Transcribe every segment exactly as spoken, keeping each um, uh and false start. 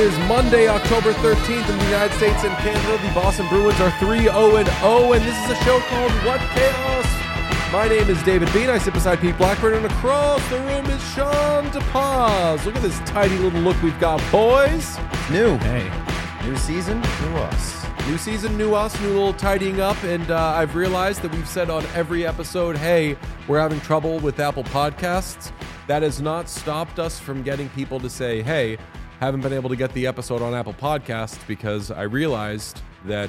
is Monday, October thirteenth in the United States and Canada. The Boston Bruins are three oh and oh, and this is a show called What Chaos? My name is David Bean. I sit beside Pete Blackburn, and across the room is Sean DePaz. Look at this tidy little look we've got, boys. New. Hey. New season, new us. New season, new us, new little tidying up, and uh, I've realized that we've said on every episode, hey, we're having trouble with Apple Podcasts. That has not stopped us from getting people to say, hey, haven't been able to get the episode on Apple Podcasts, because I realized that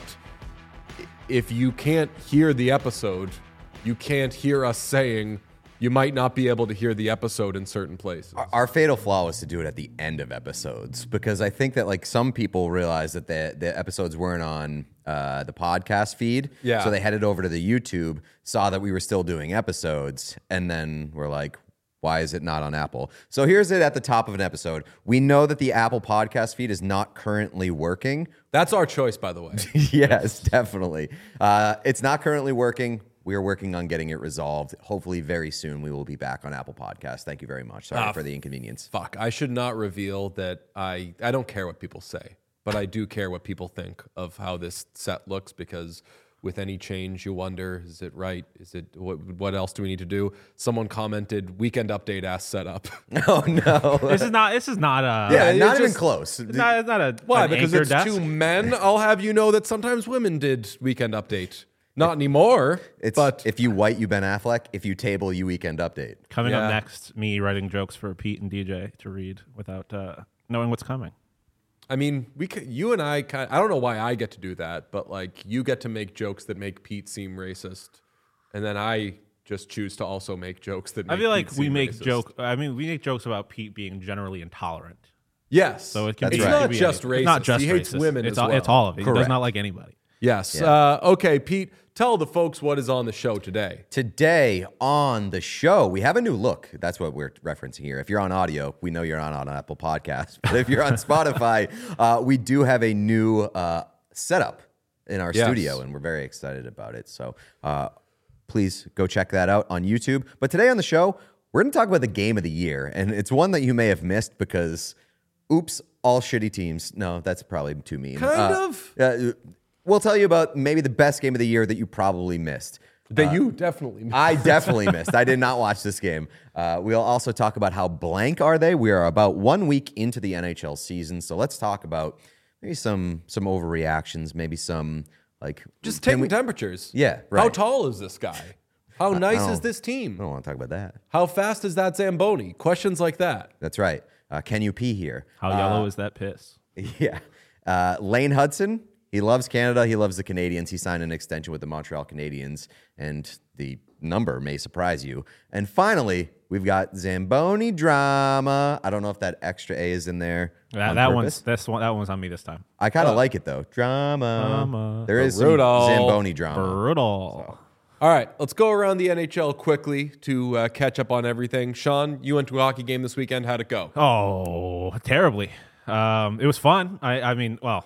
if you can't hear the episode, you can't hear us saying you might not be able to hear the episode in certain places. Our, our fatal flaw was to do it at the end of episodes, because I think that like some people realized that the, the episodes weren't on uh, the podcast feed. Yeah. So they headed over to the YouTube, saw that we were still doing episodes, and then were like, why is it not on Apple? So here's it at the top of an episode. We know that the Apple podcast feed is not currently working. That's our choice, by the way. Yes, definitely. Uh, it's not currently working. We are working on getting it resolved. Hopefully very soon we will be back on Apple Podcasts. Thank you very much. Sorry Ah, for the inconvenience. Fuck, I should not reveal that I, I don't care what people say, but I do care what people think of how this set looks, because with any change, you wonder, is it right? Is it what, what else do we need to do? Someone commented, weekend update ass setup. Oh, no. This is not. This is not a. Yeah, it's not even just- close. It's not, it's not a. Why? an Because anchor it's desk. two men. I'll have you know that sometimes women did weekend update. Not anymore. It's but if you white, you Ben Affleck. If you table, you weekend update. Coming Yeah. up next, me writing jokes for Pete and D J to read without uh, knowing what's coming. I mean, we could, you and I kind. I don't know why I get to do that, but like you get to make jokes that make Pete seem racist, and then I just choose to also make jokes that. I Make feel like Pete we seem make racist. joke. I mean, we make jokes about Pete being generally intolerant. Yes, So it can That's be. it's right. it not can be just anything. racist. It's not just he hates racist. women It's as all, well. It's all of it. He Correct. does not like anybody. Yes. Yeah. Uh, okay, Pete, tell the folks what is on the show today. Today on the show, we have a new look. That's what we're referencing here. If you're on audio, we know you're not on Apple Podcasts. But if you're on Spotify, uh, we do have a new uh, setup in our Yes. studio, and we're very excited about it. So uh, please go check that out on YouTube. But today on the show, we're going to talk about the game of the year. And it's one that you may have missed because, oops, all shitty teams. No, that's probably too mean. Kind Uh, of. Uh, we'll tell you about maybe the best game of the year that you probably missed. That you definitely. I definitely missed. I did not watch this game. Uh, we'll also talk about how blank are they. We are about one week into the N H L season, so let's talk about maybe some some overreactions, maybe some like just can taking we- temperatures. Yeah, How right. tall is this guy? How nice don't- is this I team? don't want to talk about that. How fast is that Zamboni? Questions like that. That's right. Uh, can you pee here? How yellow is that piss? Yeah. Uh, Lane Hudson, he loves Canada. He loves the Canadians. He signed an extension with the Montreal Canadiens, and the number may surprise you. And finally, we've got Zamboni drama. I don't know if that extra A is in there. That, on that purpose. one's this one. That one's on me this time. I kind of like it, though. Drama. Drama. There is some Brutal. Zamboni drama. Brutal. All right, let's go around the N H L quickly to uh, catch up on everything. Sean, you went to a hockey game this weekend. How'd it go? Oh, terribly. Um, it was fun. I, I mean, well,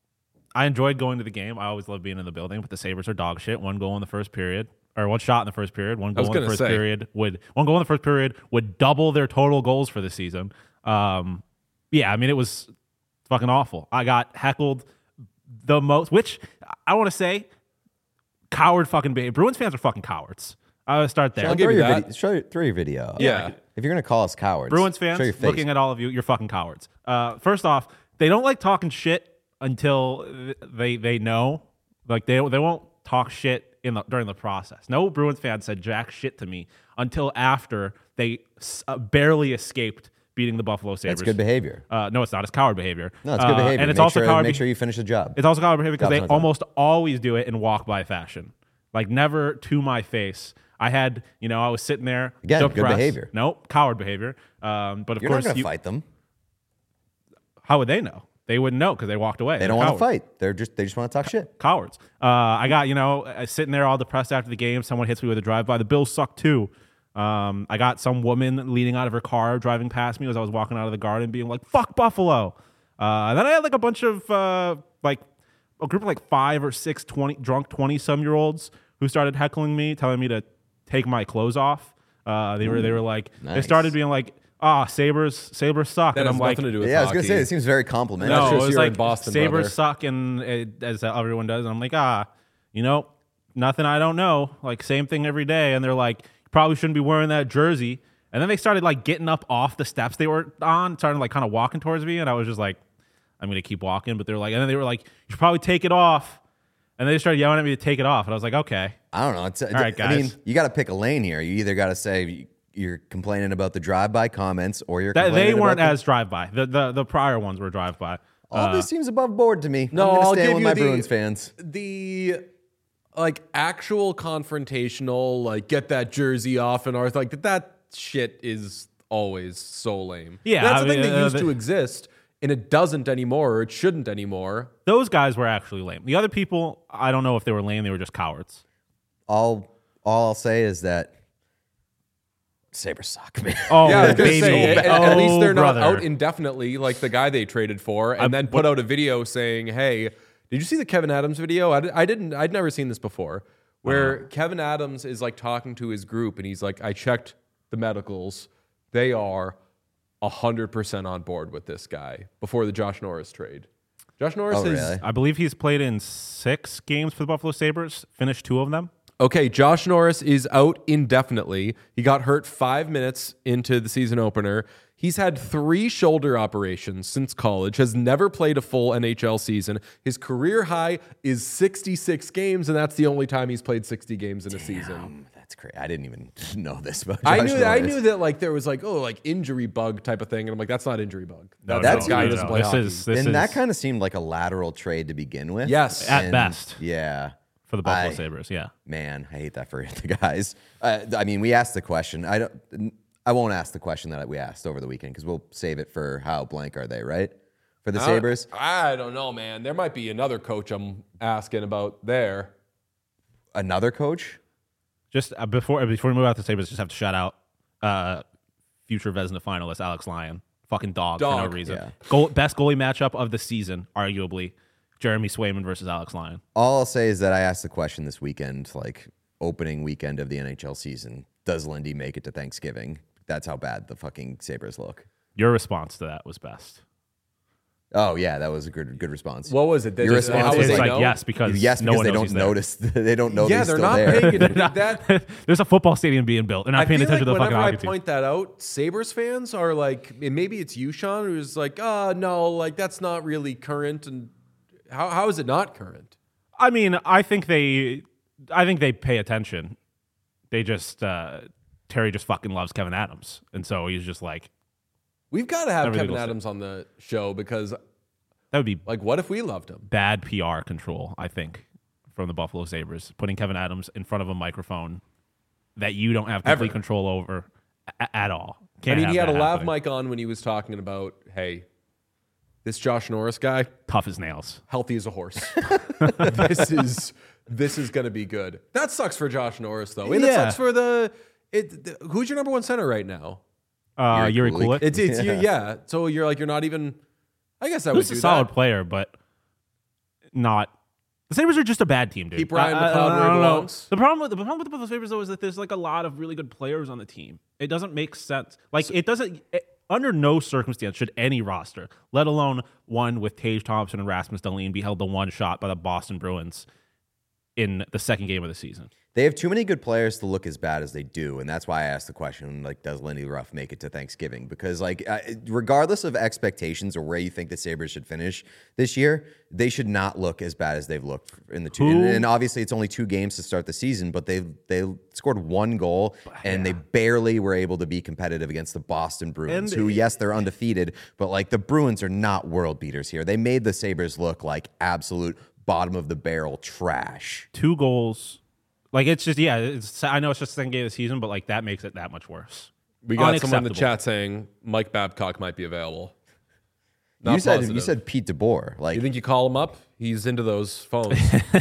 I enjoyed going to the game. I always love being in the building, but the Sabres are dog shit. One goal in the first period, or one shot in the first period. One goal was in the gonna first say. period would one goal in the first period would double their total goals for the season. Um, yeah, I mean, it was fucking awful. I got heckled the most, which I want to say, coward fucking behavior. Bruins fans are fucking cowards. I would start there. I'll give throw, you your that. video, show, throw your video. up. Yeah. If you're going to call us cowards, Bruins show your fans, face. looking at all of you, you're fucking cowards. Uh, first off, they don't like talking shit until they they know. Like they they won't talk shit in the, during the process. No Bruins fan said jack shit to me until after they uh, barely escaped beating the Buffalo Sabres. That's good behavior. Uh, no, it's not. It's coward behavior. No, it's good Uh, behavior. and it's make also sure, coward. Make be- sure you finish the job. It's also coward behavior because they Job's not done. almost always do it in walk by fashion. Like never to my face. I had, you know, I was sitting there. Again, good depressed. behavior. Nope, coward behavior. Um, but of You're not course, going to you, fight them. how would they know? They wouldn't know because they walked away. They They're don't want to cowards. fight. They're just they just want to talk shit. Cowards. Uh, I got, you know, uh, sitting there all depressed after the game. Someone hits me with a drive-by. The Bills suck too. Um, I got some woman leaning out of her car driving past me as I was walking out of the garden being like, fuck Buffalo. Uh, and then I had like a bunch of uh, like a group of like five or six twenty drunk twenty-some-year-olds who started heckling me, telling me to take my clothes off. Uh, they were they were like they nice. started being like ah, Sabres, Sabres suck. That and has I'm nothing like, to do with Yeah, I was hockey. gonna say it seems very complimentary. That's no, just it was you're like in Boston, Sabres brother. suck, and it, as everyone does. And I'm like, ah, you know, nothing I don't know. Like same thing every day. And they're like, you probably shouldn't be wearing that jersey. And then they started like getting up off the steps they were on, started like kind of walking towards me, and I was just like, I'm gonna keep walking. But they're like, and then they were like, you should probably take it off. And they started yelling at me to take it off, and I was like, okay. I don't know. It's, All right, I mean, guys. you got to pick a lane here. You either got to say you're complaining about the drive-by comments, or you're That, complaining they weren't about as drive-by. The, the the prior ones were drive-by. the, all this seems above board to me. No, I'm gonna I'll stand give with you my the- Bruins fans. The like actual confrontational, like get that jersey off and Arth, like that shit is always so lame. Yeah, that's I the thing mean, that uh, used the- to exist, and it doesn't anymore, or it shouldn't anymore. Those guys were actually lame. The other people, I don't know if they were lame. They were just cowards. All all I'll say is that Sabres suck, man. Oh, Yeah, I was gonna baby. say, at, oh, at least they're brother. not out indefinitely like the guy they traded for, and I'm- then put out a video saying, "Hey, did you see the Kevin Adams video? I, di- I didn't. I'd never seen this before, where Uh-huh. Kevin Adams is like talking to his group, and he's like, I checked the medicals. They are a hundred percent on board with this guy before the Josh Norris trade. Josh Norris Oh, is really? I believe he's played in six games for the Buffalo Sabres, finished two of them. Okay, Josh Norris is out indefinitely. He got hurt five minutes into the season opener. He's had three shoulder operations since college, has never played a full N H L season. His career high is sixty-six games, and that's the only time he's played sixty games in a season. Um, that's crazy. I didn't even know this about Josh I knew that, I Norris. knew that like there was like, oh, like injury bug type of thing. And I'm like, that's not injury bug. No, That's- no, guy no, doesn't no. play This hockey. is this And is that kind of seemed like a lateral trade to begin with. Yes. At And, best. Yeah. for the Buffalo I- Sabres. Yeah. Man, I hate that for the guys. Uh, I mean, we asked the question. I don't. I won't ask the question that we asked over the weekend because we'll save it for how blank are they, right? For the Sabres. I don't know, man. There might be another coach I'm asking about there. Another coach. Just uh, before before we move out to Sabres, just have to shout out uh, future Vezina finalist Alex Lyon. Fucking dog, for no Dog, reason. yeah. Goal, best goalie matchup of the season, arguably. Jeremy Swayman versus Alex Lyon. All I'll say is that I asked the question this weekend, like opening weekend of the N H L season. Does Lindy make it to Thanksgiving? That's how bad the fucking Sabres look. Your response to that was best. Oh yeah, that was a good good response. What was it? They Your just- response how was was It's they like know? yes because yes, no because one they knows don't he's there. notice. They don't know. Yeah, he's they're still not there. paying attention. That There's a football stadium being built. They're not I paying feel attention like to the fucking whenever I hockey team. point that out, Sabres fans are like, and maybe it's you, Sean, who's like, oh, no, like that's not really current. And how how is it not current? I mean, I think they, I think they pay attention. They just uh, Terry just fucking loves Kevin Adams, and so he's just like, We've got to have Everything Kevin will Adams on the show because, that would be like, what if we loved him? bad P R control. I think from the Buffalo Sabres, putting Kevin Adams in front of a microphone that you don't have complete Ever. control over a- at all. I Can't mean, have he had a that lav happening. mic on when he was talking about, hey, this Josh Norris guy, Tough as nails. healthy as a horse. this is this is going to be good. That sucks for Josh Norris, though. And it Yeah. sucks for the, it, the. Who's your number one center right now? Uh, Yuri Yuri Kulik. Kulik. It's it's Yeah. yeah. yeah. So you're like you're not even. I guess I would He's do a solid that. player, but not. The Sabres are just a bad team, dude. Keep Ryan I- I- McLeod I where he don't know. belongs. The problem with the problem with the Buffalo Sabres though is that there's like a lot of really good players on the team. It doesn't make sense. Like it doesn't. It, under no circumstance should any roster, let alone one with Tage Thompson and Rasmus Dahlin, be held to one shot by the Boston Bruins in the second game of the season. They have too many good players to look as bad as they do, and that's why I asked the question: like, does Lindy Ruff make it to Thanksgiving? Because, like, uh, regardless of expectations or where you think the Sabres should finish this year, they should not look as bad as they've looked in the two. Who- And, and obviously, it's only two games to start the season, but they they scored one goal, and they barely were able to be competitive against the Boston Bruins, And- who, yes, they're undefeated, but like the Bruins are not world beaters here. They made the Sabres look like absolute bottom of the barrel trash. Two goals. Like it's just yeah. It's, I know it's just the second game of the season, but like that makes it that much worse. We got someone in the Unacceptable. chat saying Mike Babcock might be available. Not You said positive. you said Pete DeBoer, like You think you call him up? He's into those phones.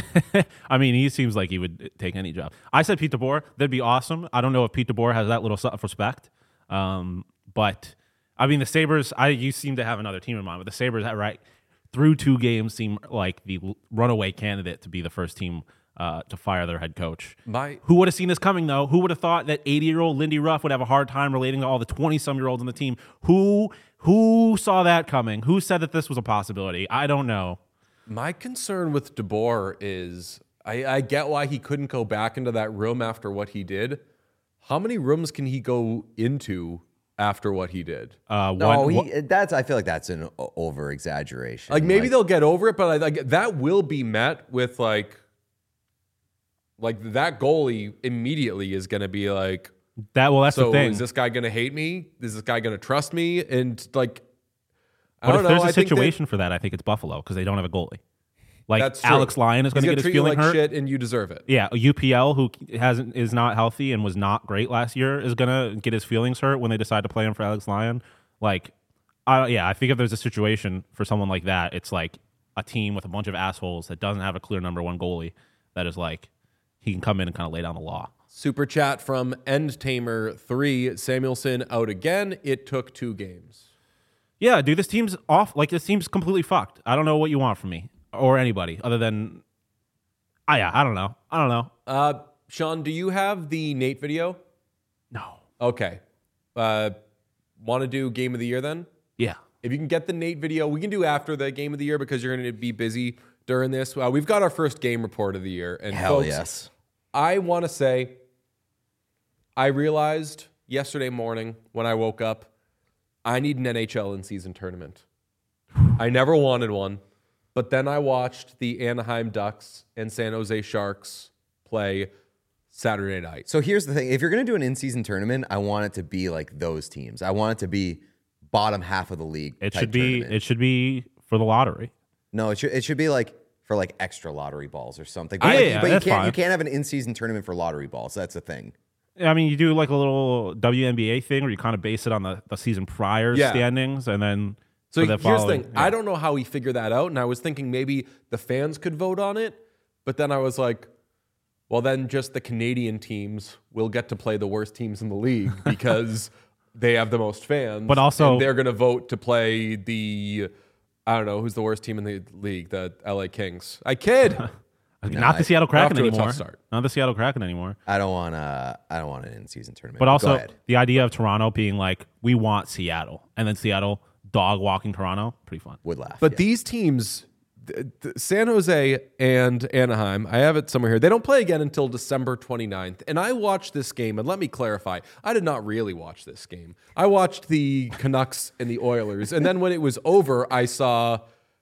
I mean, he seems like he would take any job. I said Pete DeBoer. That'd be awesome. I don't know if Pete DeBoer has that little self-respect. Um, but, I mean, the Sabres, I you seem to have another team in mind, but the Sabres, right, through two games, seem like the l- runaway candidate to be the first team uh, to fire their head coach. My Who would have seen this coming, though? Who would have thought that eighty-year-old Lindy Ruff would have a hard time relating to all the twenty-some-year-olds on the team? Who who saw that coming? Who said that this was a possibility? I don't know. my concern with DeBoer is I, I get why he couldn't go back into that room after what he did. How many rooms can he go into after what he did? Uh, No, one, he, one- that's. I feel like that's an over exaggeration. Like maybe they'll get over it, but I, like that will be met with like, like that goalie immediately is going to be like, that well, that's so the thing. is this guy going to hate me? Is this guy going to trust me? And like, I But don't if know. there's a I think that- situation for that, I think it's Buffalo because they don't have a goalie. Like That's true. Alex Lyon is going He's to gonna get his treat you feeling like hurt. shit, and you deserve it. Yeah, U P L who hasn't is not healthy and was not great last year is gonna get his feelings hurt when they decide to play him for Alex Lyon. Like, I yeah, I think if there's a situation for someone like that, it's like a team with a bunch of assholes that doesn't have a clear number one goalie that is like he can come in and kind of lay down the law. Super chat from End Tamer three. Samuelson out again. It took two games. Yeah, dude, this team's off. Like this team's completely fucked. I don't know what you want from me or anybody other than, I yeah, I don't know. I don't know. Uh, Sean, do you have the Nate video? No. Okay. Uh, want to do game of the year then? Yeah. If you can get the Nate video, we can do after the game of the year because you're going to be busy during this. Uh, we've got our first game report of the year. And Hell folks, yes. I want to say, I realized yesterday morning when I woke up, I need an N H L in-season tournament. I never wanted one, but then I watched the Anaheim Ducks and San Jose Sharks play Saturday night. So here's the thing: if you're gonna do an in-season tournament, I want it to be like those teams. I want it to be bottom half of the league. It type should be tournament. it should be for the lottery. No, it should it should be like for like extra lottery balls or something. Yeah, But, like, yeah, but you that's can't fine. you can't have an in-season tournament for lottery balls. That's the thing. I mean, you do like a little W N B A thing where you kind of base it on the, the season prior Yeah. standings, and then So for the here's the following- thing. yeah. I don't know how he figured that out, and I was thinking maybe the fans could vote on it, but then I was like, well, then just the Canadian teams will get to play the worst teams in the league because they have the most fans. But also- and they're going to vote to play the, I don't know, who's the worst team in the league? The L A Kings. I kid. not the Seattle Kraken off to a tough anymore. start. Not the Seattle Kraken anymore. I don't want uh I don't want an in-season tournament. But Go also ahead. the idea of Toronto being like, we want Seattle, and then Seattle dog walking Toronto, pretty fun. would laugh. But yeah. these teams, th- th- San Jose and Anaheim, I have it somewhere here. They don't play again until December twenty-ninth. And I watched this game, and let me clarify, I did not really watch this game. I watched the Canucks and the Oilers. And then when it was over, I saw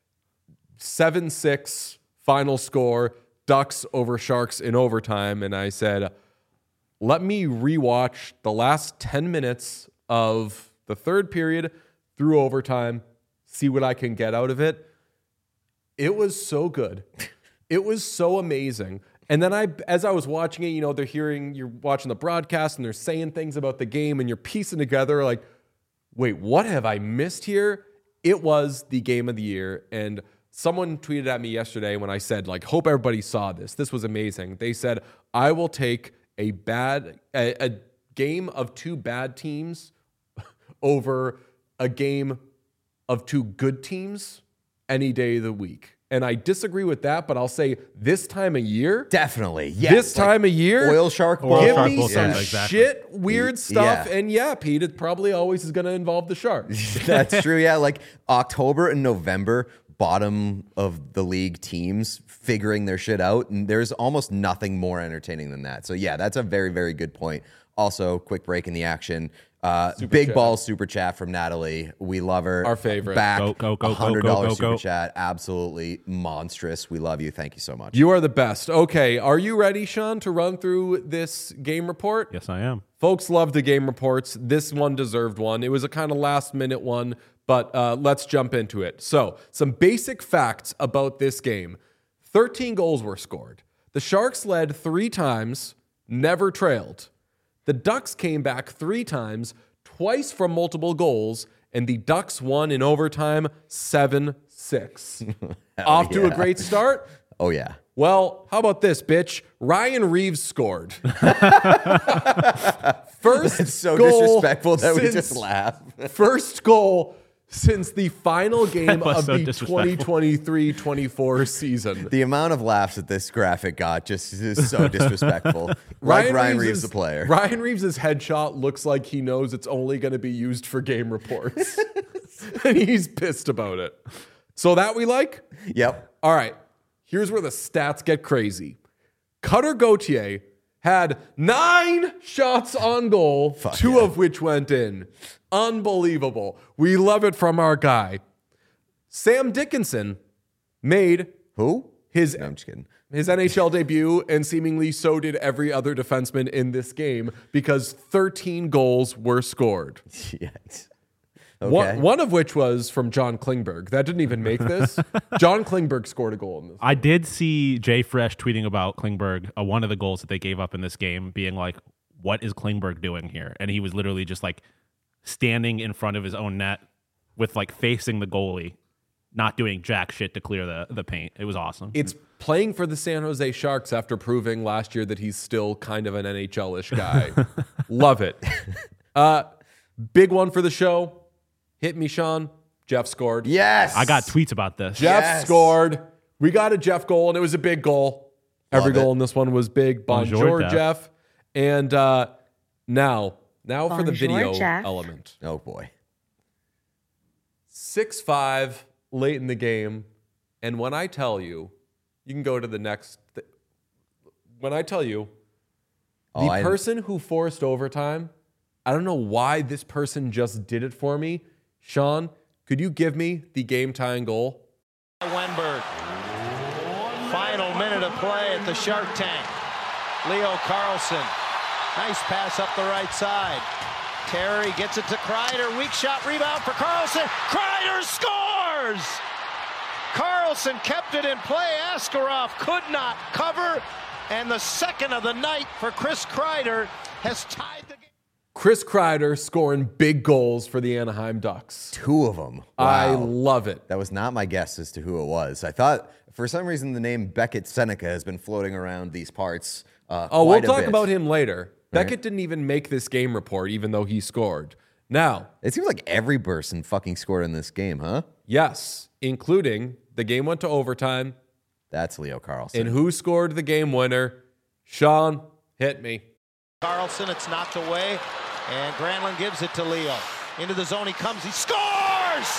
seven six final score, Ducks over Sharks in overtime. And I said, let me rewatch the last ten minutes of the third period through overtime, see what I can get out of it. It was so good. It was so amazing. And then I, as I was watching it, you know, they're hearing, you're watching the broadcast and they're saying things about the game and you're piecing together like, wait, what have I missed here? It was the game of the year. And someone tweeted at me yesterday when I said, like, hope everybody saw this. This was amazing. They said, I will take a bad, a, a game of two bad teams over a game of two good teams any day of the week. And I disagree with that, but I'll say this time of year, definitely. Yes. this like time of year, oil shark Oil balls. give Shark me Bowl some sounds exactly. shit, weird stuff. Yeah. And yeah, Pete, it probably always is going to involve the Sharks. That's true. Yeah, like October and November, bottom of the league teams figuring their shit out, and there's almost nothing more entertaining than that. So yeah, that's a very, very good point. Also, quick break in the action. Uh, big chat. ball super chat from Natalie. We love her. Our favorite. Back. Go, go, go, go, hundred dollars go, go, super go. chat. Absolutely monstrous. We love you. Thank you so much. You are the best. Okay, are you ready, Sean, to run through this game report? Yes, I am. Folks love the game reports. This one deserved one. It was a kind of last minute one, but uh, let's jump into it. So, some basic facts about this game. thirteen goals were scored. The Sharks led three times, never trailed. The Ducks came back three times, twice from multiple goals, and the Ducks won in overtime seven six. Off to a yeah. great start? Oh yeah. Well, how about this, bitch? Ryan Reeves scored. First It's so goal disrespectful that we since- just laugh. First goal since the final game was of so the disrespectful. twenty twenty-three twenty-four season. The amount of laughs that this graphic got just is so disrespectful. like Ryan, Ryan Reeves, Reeves, is- the player. Ryan Reeves' headshot looks like he knows it's only going to be used for game reports. And he's pissed about it. So that we like? Yep. All right. Here's where the stats get crazy. Cutter Gauthier had nine shots on goal, Fuck two yeah. of which went in. Unbelievable. We love it from our guy. Sam Dickinson made Who? his No, I'm just kidding. his N H L debut, and seemingly so did every other defenseman in this game because thirteen goals were scored. Yes. One, Okay. one of which was from John Klingberg. That didn't even make this. John Klingberg scored a goal in this. I did see Jay Fresh tweeting about Klingberg, uh, one of the goals that they gave up in this game, being like, what is Klingberg doing here? And he was literally just like standing in front of his own net with like facing the goalie, not doing jack shit to clear the, the paint. It was awesome. It's playing for the San Jose Sharks after proving last year that he's still kind of an N H L-ish guy. Love it. Uh, big one for the show. Hit me, Sean. Jeff scored. Yes. I got tweets about this. Jeff Yes. scored. We got a Jeff goal, and it was a big goal. Every Love it. goal in this one was big. Bonjour, Bonjour, Jeff. Jeff. And uh, now, now for the Bonjour, video Jeff. element. Oh boy. six five late in the game. And when I tell you, you can go to the next. Th- when I tell you, Oh, the I- person who forced overtime, I don't know why this person just did it for me. Sean, could you give me the game tying goal? Wenberg. Final minute of play at the Shark Tank. Leo Carlson. Nice pass up the right side. Terry gets it to Kreider. Weak shot rebound for Carlson. Kreider scores! Carlson kept it in play. Askarov could not cover. And the second of the night for Chris Kreider has tied the game. Chris Kreider scoring big goals for the Anaheim Ducks. Two of them. I Wow. love it. That was not my guess as to who it was. I thought, for some reason, the name Beckett Seneca has been floating around these parts. Uh, Oh, we'll quite a talk bit. about him later. Right. Beckett didn't even make this game report, even though he scored. Now, It seems like every person fucking scored in this game, huh? yes, including the game went to overtime. That's Leo Carlson. And who scored the game winner? Sean, hit me. Carlson, it's knocked away, and Granlund gives it to Leo. Into the zone he comes, he scores!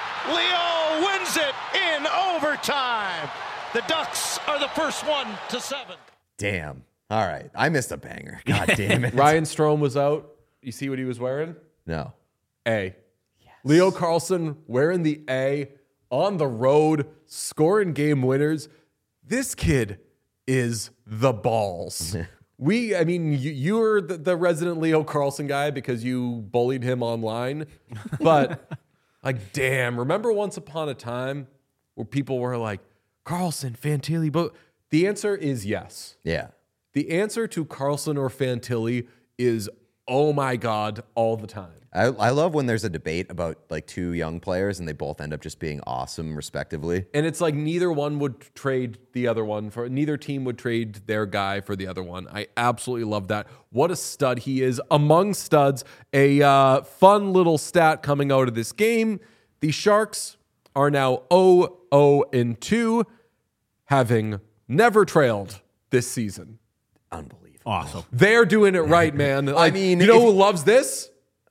Leo wins it in overtime. The Ducks are the first one to seven. Damn. All right. I missed a banger. God damn it. Ryan Strome was out. You see what he was wearing? No. A. Leo Carlson wearing the A on the road, scoring game winners. This kid is the balls. We, I mean, you, you're the, the resident Leo Carlson guy because you bullied him online. But, like, damn, remember once upon a time where people were like, Carlson, Fantilli, but the answer is yes. Yeah. The answer to Carlson or Fantilli is, oh my God, all the time. I, I love when there's a debate about like two young players and they both end up just being awesome respectively. And it's like neither one would trade the other one for, neither team would trade their guy for the other one. I absolutely love that. What a stud he is among studs. A uh, fun little stat coming out of this game. The Sharks are now oh oh and two, having never trailed this season. Unbelievable. Awesome. They're doing it right, man. Like, mean, you know if- who loves this?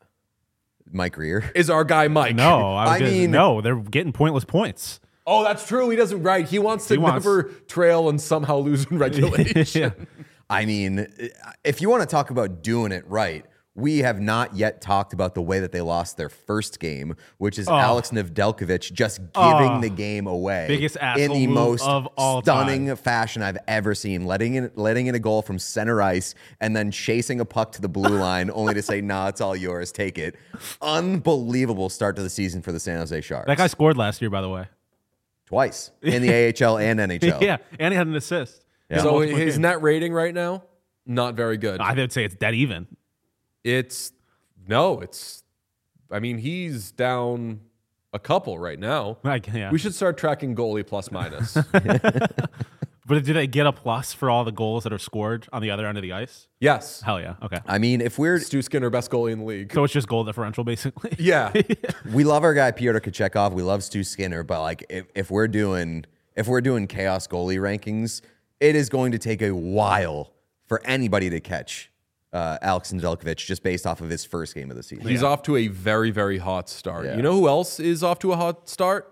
Mike Greer. Is our guy Mike. No, I, was I gonna- mean- no, they're getting pointless points. Oh, that's true. He doesn't, right. He wants to He wants- never trail and somehow lose in regulation. Yeah. I mean, if you want to talk about doing it right, we have not yet talked about the way that they lost their first game, which is Alex Nedeljkovic just giving Oh. the game away Biggest in asshole the move most of all stunning time. fashion I've ever seen, letting in letting in a goal from center ice and then chasing a puck to the blue line, only to say, "Nah, it's all yours. Take it." Unbelievable start to the season for the San Jose Sharks. That guy scored last year, by the way. twice in the A H L and N H L. Yeah, and he had an assist. Yeah. So Multiple his games. net rating right now, not very good. I would say it's dead even. It's no, it's. I mean, he's down a couple right now. Like, yeah. We should start tracking goalie plus minus. But do they get a plus for all the goals that are scored on the other end of the ice? Yes. Hell yeah. Okay. I mean, if we're Stu Skinner, best goalie in the league. So it's just goal differential, basically. Yeah. we love our guy Pyotr Kochetkov, we love Stu Skinner, but like if, if we're doing if we're doing chaos goalie rankings, it is going to take a while for anybody to catch uh, Alex Nedeljkovic just based off of his first game of the season. He's off to a very, very hot start. Yeah. You know who else is off to a hot start?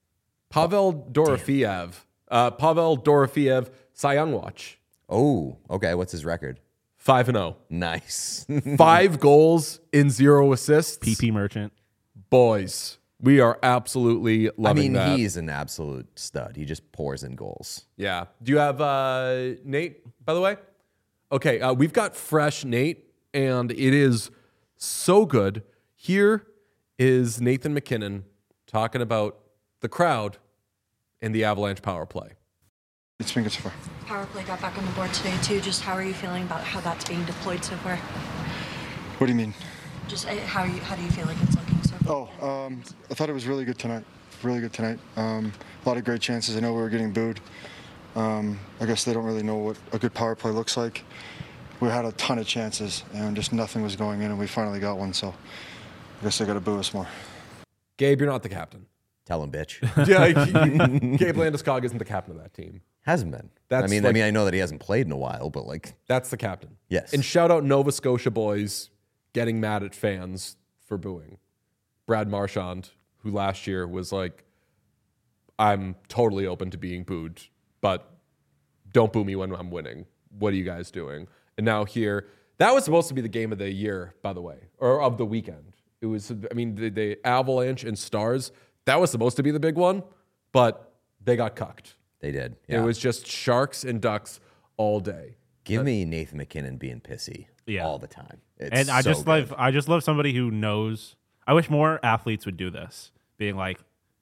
Pavel Dorofeyev. Uh, Pavel Dorofeyev, Cy Young watch. Oh, okay. What's his record? five and oh. Nice. Five goals in zero assists. P P Merchant. Boys, we are absolutely I loving mean, that. he's an absolute stud. He just pours in goals. Yeah. Do you have uh, Nate, by the way? Okay, uh, we've got fresh Nate, and it is so good. Here is Nathan MacKinnon talking about the crowd and the Avalanche power play. It's been good so far. Power play got back on the board today too. Just how are you feeling about how that's being deployed so far? What do you mean? Just uh, how you how do you feel like it's looking so far? Oh, um, I thought it was really good tonight. Really good tonight. Um, a lot of great chances. I know we were getting booed. Um, I guess they don't really know what a good power play looks like. We had a ton of chances and just nothing was going in, and we finally got one. So I guess they got to boo us more. Gabe, you're not the captain. Tell him, bitch. Yeah, Gabe Landeskog isn't the captain of that team. Hasn't been. That's I mean, like- I mean, I know that he hasn't played in a while, but like, That's the captain. Yes. And shout out Nova Scotia boys getting mad at fans for booing. Brad Marchand, who last year was like, I'm totally open to being booed, but don't boo me when I'm winning. What are you guys doing? And now here, that was supposed to be the game of the year, by the way, or of the weekend. It was, I mean, the, the Avalanche and Stars, that was supposed to be the big one, but they got cucked. they did. It Yeah. was just Sharks and Ducks all day. Give me Nathan MacKinnon being pissy Yeah. all the time. It's And I so just good. love I just love somebody who knows. I wish more athletes would do this, being like,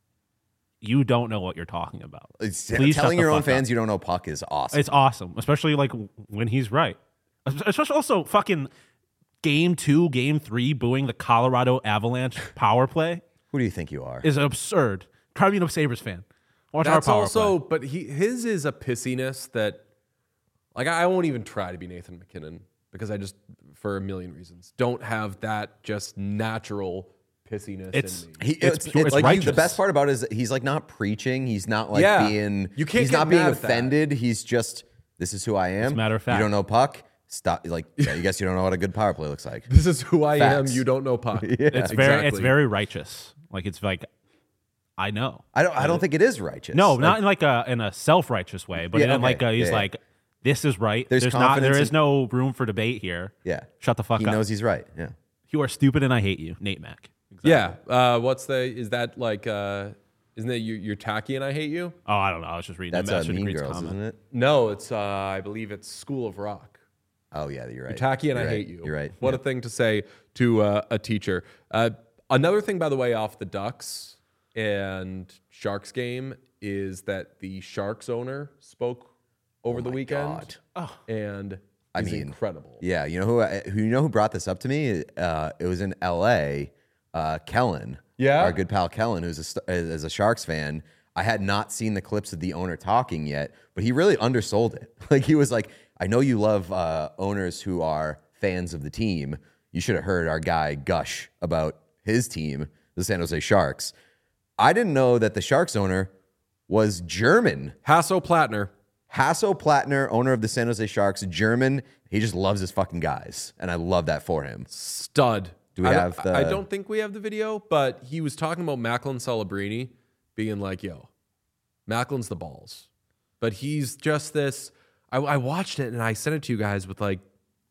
you don't know what you're talking about. It's, Please shut telling the your own fuck fans up. you don't know puck is awesome. It's awesome, especially like when he's right. Especially also fucking game two, game three, booing the Colorado Avalanche power play Who do you think you are? is absurd. Try being a Sabres fan. Watch That's our power also, play. but he his is a pissiness that, like, I won't even try to be Nathan MacKinnon because I just, for a million reasons, don't have that just natural pissiness It's- in me. He, It's it's, pure- it's it's like he- the righteous. best part about it is that he's like not preaching. He's not like Yeah. being. You can't He's get not being mad at that. offended. He's just this is who I am. a matter of fact. You don't know puck. Stop. Like yeah, you guess you don't know what a good power play looks like. This is who I Facts. am. You don't know puck. Yeah. It's very it's exactly. very righteous. Like it's like I know. I don't. I don't think it is righteous. No, Like, not in like a in a self righteous way, but Yeah, in okay. like a, he's Yeah, yeah. like, this is right. There's There's, not there confidence is in- no room for debate here. Yeah. Shut the fuck He up. knows he's right. Yeah. You are stupid and I hate you, Nate Mack. Yeah. Uh, what's the? Is that like? Uh, isn't that you, you're tacky and I hate you? Oh, I don't know. I was just reading That's the uh, Master Mean Degrees Girls, comment. isn't it? No, it's. Uh, I believe it's School of Rock. Oh yeah, you're right. You're tacky and You're I right. hate you. You're right. What Yeah. a thing to say to uh, a teacher. Uh, another thing, by the way, off the Ducks and Sharks game is that the Sharks owner spoke over the Oh my weekend, God. and I is mean, incredible. Yeah, you know who? I- Who you know who brought this up to me? Uh, it was in L A. Uh, Kellen, Yeah? our good pal Kellen, who's a, st- is a Sharks fan. I had not seen the clips of the owner talking yet, but he really undersold it. Like he was like, "I know you love uh, owners who are fans of the team. You should have heard our guy gush about his team, the San Jose Sharks." I didn't know that the Sharks owner was German. Hasso Plattner. Hasso Plattner, owner of the San Jose Sharks, German. He just loves his fucking guys, and I love that for him. Stud. Do we I have don't, the- I don't think we have the video, but he was talking about Macklin Celebrini being like, yo, Macklin's the balls. But he's just this. I, I watched it and I sent it to you guys with like,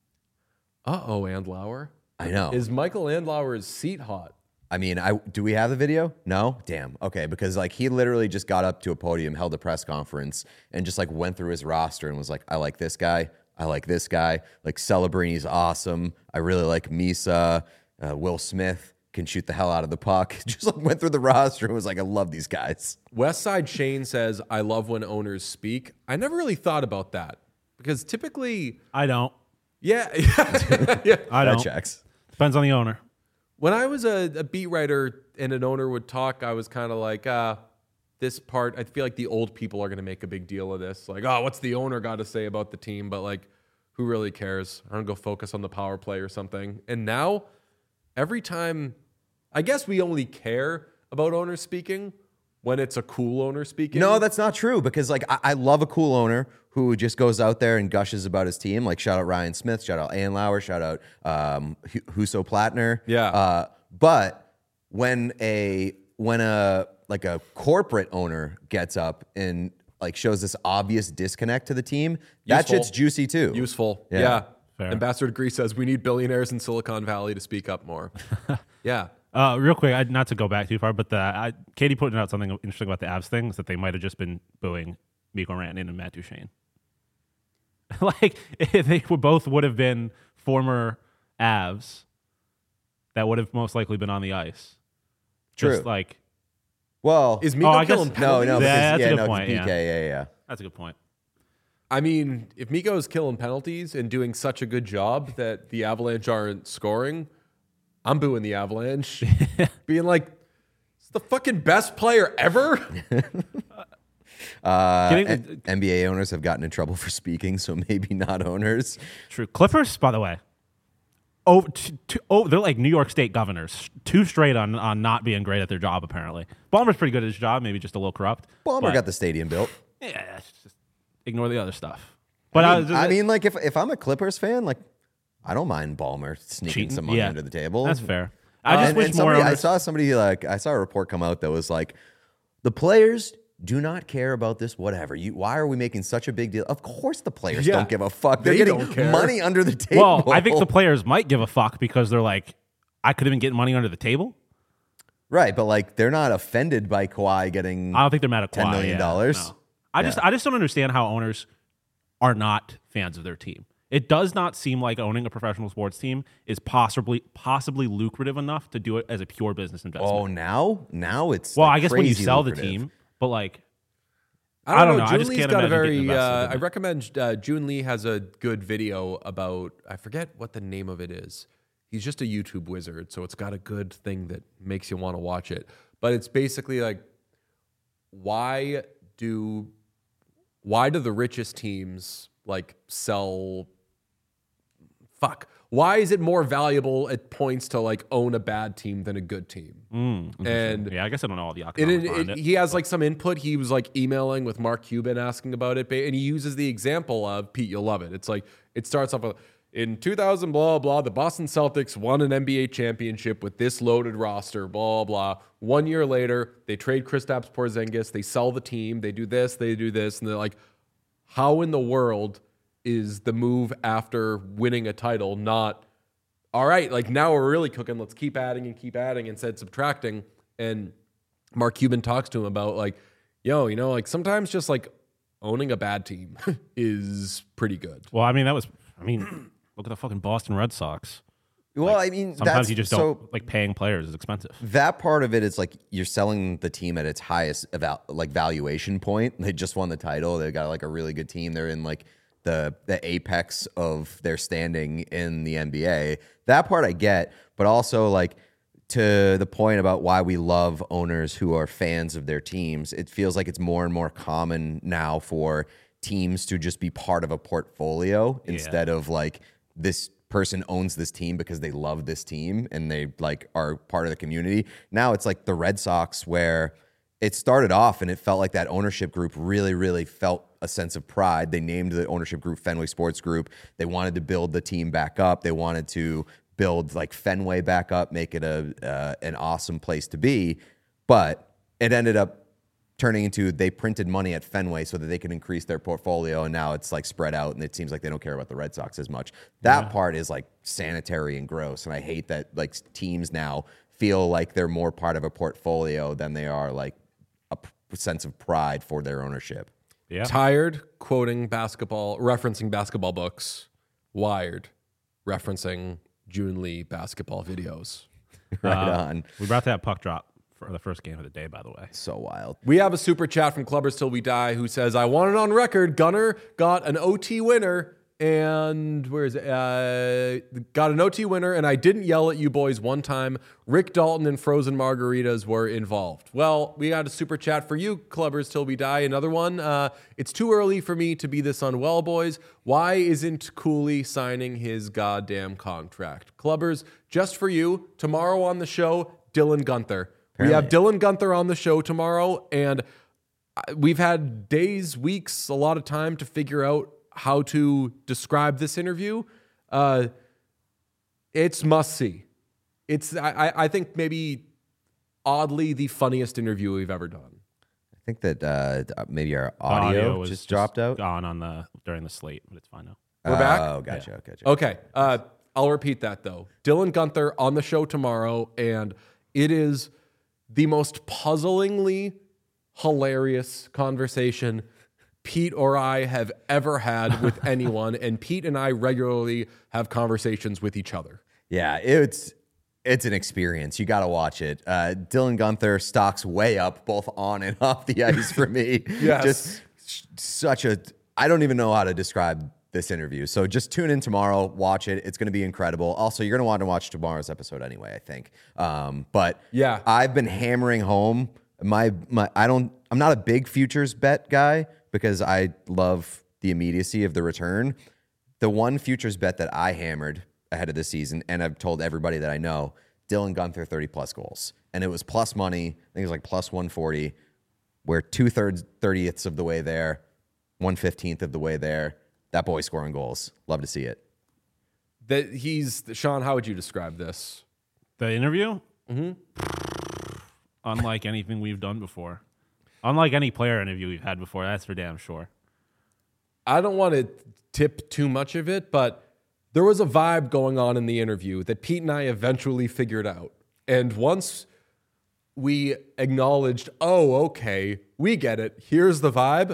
uh-oh, Andlauer. I know. Is Michael Andlauer's seat hot? I mean, I do we have the video? No? Damn. Okay, because like he literally just got up to a podium, held a press conference, and just like went through his roster and was like, I like this guy. I like this guy. Like Celebrini's awesome. I really like Misa. Uh, Will Smith can shoot the hell out of the puck. Just like went through the roster and was like, I love these guys. West Side Shane says, I love when owners speak. I never really thought about that because typically, I don't. yeah. yeah. I That don't. checks. Depends on the owner. When I was a, a beat writer and an owner would talk, I was kind of like, uh, this part, I feel like the old people are going to make a big deal of this. Like, oh, what's the owner got to say about the team? But like, who really cares? I don't go focus on the power play or something. And now, every time, I guess we only care about owners speaking when it's a cool owner speaking. No, that's not true because like I, I love a cool owner who just goes out there and gushes about his team. Like shout out Ryan Smith, shout out Ian Lauer, shout out um, H- Huso Platner. Yeah. Uh, but when a when a like a corporate owner gets up and like shows this obvious disconnect to the team, that Useful. shit's juicy too. Useful. Yeah. Yeah. Fair. Ambassador Degree says we need billionaires in Silicon Valley to speak up more. Yeah. Uh, real quick, I, not to go back too far, but the I, Katie pointed out something interesting about the Avs thing is that they might have just been booing Mikko Rantanen and Matt Duchene. Like if they would both would have been former Avs, that would have most likely been on the ice. True. Just like Well, Is Mikko Oh, I guess- killing no, penalties? no, because, Yeah, that's a yeah, good no, 'cause point, P K, yeah. yeah, yeah. that's a good point. I mean, if Mikko's killing penalties and doing such a good job that the Avalanche aren't scoring, I'm booing the Avalanche. Being like, it's the fucking best player ever. Uh, Getting- N- N B A owners have gotten in trouble for speaking, so maybe not owners. True. Clippers, by the way. Oh, t- t- oh, they're like New York State governors, two straight on, on not being great at their job. Apparently, Ballmer's pretty good at his job, maybe just a little corrupt. Ballmer but- got the stadium built. Yeah, it's just ignore the other stuff. But I I, mean, I mean, like if if I'm a Clippers fan, like I don't mind Ballmer sneaking cheating, some money yeah, under the table. That's fair. I Uh, just and- wish and more. somebody, I owners- saw somebody like I saw a report come out that was like, the players do not care about this. Whatever. You, why are we making such a big deal? Of course, the players Yeah, don't give a fuck. They're they getting don't care. money under the table. Well, I think the players might give a fuck because they're like, I could have been getting money under the table. right, but like they're not offended by Kawhi getting. I don't think they're mad at Kawhi. ten million dollars? Yeah, no. I just, I just don't understand how owners are not fans of their team. It does not seem like owning a professional sports team is possibly, possibly lucrative enough to do it as a pure business investment. Oh, now, now it's well, like I guess when you crazy sell lucrative. the team, but like, I don't, I don't know. know. I June just Lee's can't got a imagine getting very. invested Uh, in I it. recommend uh, June Lee has a good video about. I forget what the name of it is. He's just a YouTube wizard, so it's got a good thing that makes you want to watch it. But it's basically like, why do, why do the richest teams like sell? Fuck. Why is it more valuable at points to like own a bad team than a good team? mm, And yeah, I guess I don't know all the It, economics it, behind it- it. he has like some input. He was like emailing with Mark Cuban asking about it, and he uses the example of Pete. You'll love it. It's like it starts off with in two thousand, blah blah. The Boston Celtics won an N B A championship with this loaded roster, blah blah. One year later, they trade Kristaps Porzingis. They sell the team. They do this. They do this, and they're like, how in the world is the move after winning a title not? All right, like now we're really cooking. Let's keep adding and keep adding instead of subtracting. And Mark Cuban talks to him about like, yo, you know, like sometimes just like owning a bad team is pretty good. Well, I mean, that was, I mean, look at the fucking Boston Red Sox. Well, I mean, Sometimes that's, you just so don't, like paying players is expensive. that part of it is like you're selling the team at its highest eval- like valuation point. They just won the title. They got like a really good team. They're in like the the apex of their standing in the N B A. That part I get, but also like to the point about why we love owners who are fans of their teams. It feels like it's more and more common now for teams to just be part of a portfolio instead of like this person owns this team because they love this team and they like are part of the community. Now it's like the Red Sox where it started off and it felt like that ownership group really, really felt a sense of pride. They named the ownership group Fenway Sports Group. They wanted to build the team back up. They wanted to build like Fenway back up, make it a uh, an awesome place to be. But it ended up turning into they printed money at Fenway so that they could increase their portfolio, and now it's like spread out, and it seems like they don't care about the Red Sox as much. That yeah. part is like sanitary and gross, and I hate that like teams now feel like they're more part of a portfolio than they are like a p- sense of pride for their ownership. Yeah. Tired quoting basketball, referencing basketball books. Wired referencing June Lee basketball videos. Right Uh, on. We're about to have puck drop for the first game of the day, by the way. So wild. We have a super chat from Clubbers Till We Die who says, I want it on record. Gunner got an O T winner And where is it? Uh, got an O T winner, and I didn't yell at you boys one time. Rick Dalton and frozen margaritas were involved. Well, we got a super chat for you, Clubbers Till We Die. Another one. Uh, it's too early for me to be this unwell, boys. Why isn't Cooley signing his goddamn contract? Clubbers, just for you, tomorrow on the show, Dylan Gunther. Apparently. We have Dylan Gunther on the show tomorrow, and we've had days, weeks, a lot of time to figure out how to describe this interview. Uh, it's must see. It's I, I think maybe oddly the funniest interview we've ever done. I think that uh, maybe our audio, audio was just, just dropped out. Gone on the during the slate, but it's fine now. We're back. Oh, gotcha, Yeah. gotcha. Okay. Uh, I'll repeat that though. Dylan Gunther on the show tomorrow, and it is the most puzzlingly hilarious conversation Pete or I have ever had with anyone, and Pete and I regularly have conversations with each other. Yeah, it's it's an experience. You got to watch it. Uh, Dylan Gunther stocks way up both on and off the ice for me. Yes. Just sh- such a, I don't even know how to describe this interview. So just tune in tomorrow, watch it. It's going to be incredible. Also, you're going to want to watch tomorrow's episode anyway, I think. Um, but Yeah. I've been hammering home my, my, I don't, I'm not a big futures bet guy because I love the immediacy of the return. The one futures bet that I hammered ahead of the season, and I've told everybody that I know, Dylan Gunther thirty plus goals. And it was plus money. I think it was like plus one forty. We're two-thirds, thirtieths of the way there, one fifteenth of the way there. That boy scoring goals. Love to see it. That he's Sean. How would you describe this? The interview? Mm-hmm. Unlike anything we've done before. Unlike any player interview we've had before, that's for damn sure. I don't want to tip too much of it, but there was a vibe going on in the interview that Pete and I eventually figured out. And once we acknowledged, oh, okay, we get it, here's the vibe,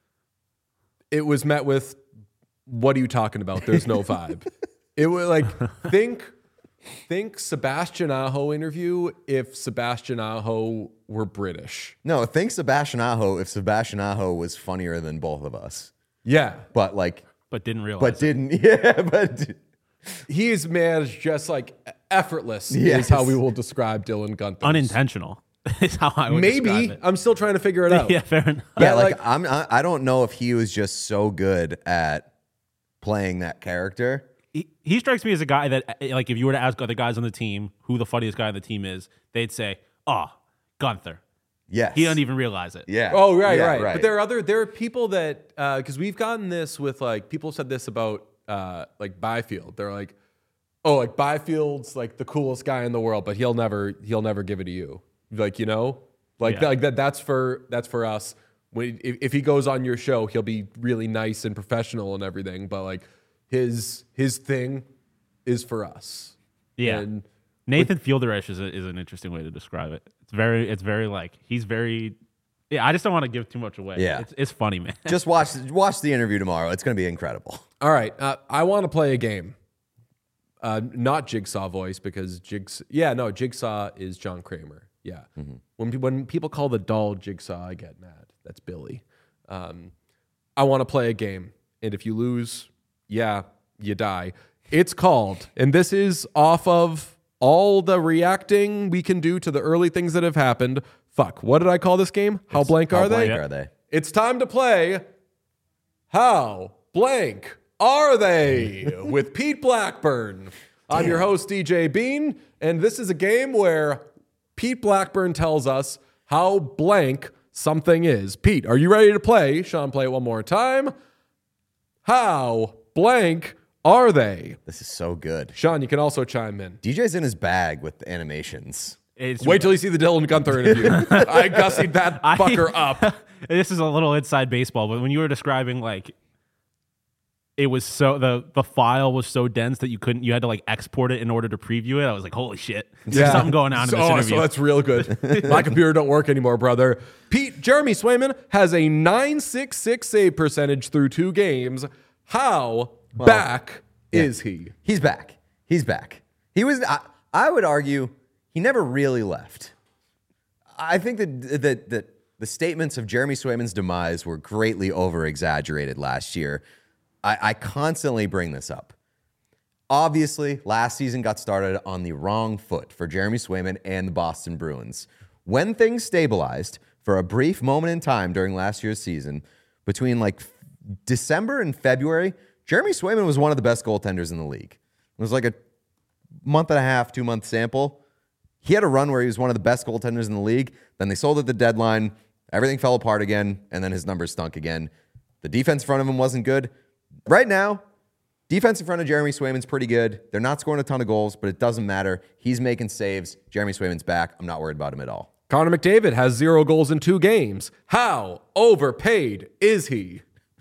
it was met with, what are you talking about? There's no vibe. It was like, think think Sebastian Aho interview if Sebastian Aho were British. No, think Sebastian Aho if Sebastian Aho was funnier than both of us. Yeah. But like, But didn't realize but it. didn't, yeah, but He's managed just like effortless Yes. is how we will describe Dylan Gunther. Unintentional is how I would Maybe. describe it. I'm still trying to figure it out. Yeah, fair enough. yeah, Yeah, like, like- I'm, I, I don't know if he was just so good at playing that character. He, he strikes me as a guy that, like, if you were to ask other guys on the team who the funniest guy on the team is, they'd say, oh, Gunther. Yes. He doesn't even realize it. Yeah. Oh, right, Yeah, right, But there are other there are people that because we've gotten this with like people said this about uh, like Byfield. They're like, oh, like Byfield's like the coolest guy in the world, but he'll never he'll never give it to you. Like you know, like Yeah. like that. That's for that's for us. When if, if he goes on your show, he'll be really nice and professional and everything. But like his his thing is for us. Yeah. And Nathan Fielder-ish is, a, is an interesting way to describe it. It's very, it's very like, he's very, yeah, I just don't want to give too much away. Yeah. It's, it's funny, man. Just watch watch the interview tomorrow. It's going to be incredible. All right, uh, I want to play a game. Uh, not Jigsaw voice because Jigsaw. Yeah, no, Jigsaw is John Kramer. Yeah, when pe- when people call the doll Jigsaw, I get mad. That's Billy. Um, I want to play a game, and if you lose, yeah, you die. It's called, and this is off of all the reacting we can do to the early things that have happened. Fuck, what did I call this game? How blank How are they? blank are they? It's time to play How Blank Are They with Pete Blackburn. I'm your host, D J Bean, and this is a game where Pete Blackburn tells us how blank something is. Pete, are you ready to play? Sean, play it one more time. How blank are they? This is so good. Sean, you can also chime in. D J's in his bag with the animations. It's, Wait till you see the Dylan Gunther interview. I gussied that I- fucker up. This is a little inside baseball, but when you were describing, like, it was so, the, the file was so dense that you couldn't, you had to, like, export it in order to preview it. I was like, holy shit. There's something going on in So- this oh, interview. So that's real good. My computer don't work anymore, brother. Pete, Jeremy Swayman has a nine six six save percentage through two games. How back is he? He's back. He's back. He was. I, I would argue he never really left. I think that that that the statements of Jeremy Swayman's demise were greatly over exaggerated last year. I, I constantly bring this up. Obviously, last season got started on the wrong foot for Jeremy Swayman and the Boston Bruins. When things stabilized for a brief moment in time during last year's season, between like December and February, Jeremy Swayman was one of the best goaltenders in the league. It was like a month and a half, two month sample. He had a run where he was one of the best goaltenders in the league. Then they sold at the deadline. Everything fell apart again, and then his numbers stunk again. The defense in front of him wasn't good. Right now, defense in front of Jeremy Swayman's pretty good. They're not scoring a ton of goals, but it doesn't matter. He's making saves. Jeremy Swayman's back. I'm not worried about him at all. Connor McDavid has zero goals in two games. How overpaid is he?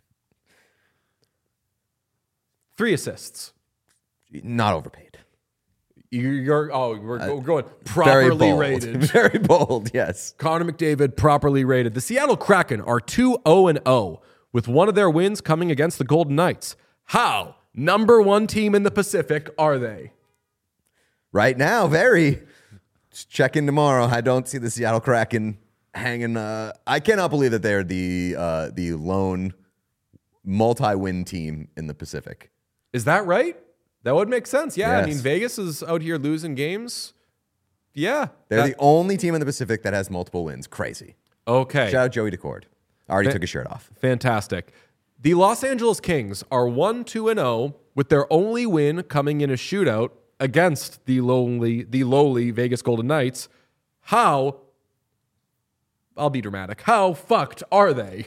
Three assists. Not overpaid. You're oh, we're Uh, going Very properly bold. rated. Very bold, yes. Connor McDavid properly rated. The Seattle Kraken are two oh and oh with one of their wins coming against the Golden Knights. How number one team in the Pacific are they? Right now, very. Just check in tomorrow. I don't see the Seattle Kraken hanging. Uh, I cannot believe that they're the uh, the lone multi-win team in the Pacific. Is that right? That would make sense. Yeah, Yes. I mean Vegas is out here losing games. Yeah, They're that- the only team in the Pacific that has multiple wins. Crazy. okay. Shout out Joey Decord. Already Fa- took his shirt off. Fantastic. The Los Angeles Kings are one two and oh with their only win coming in a shootout against the lowly the lowly Vegas Golden Knights. How I'll be dramatic. How fucked are they?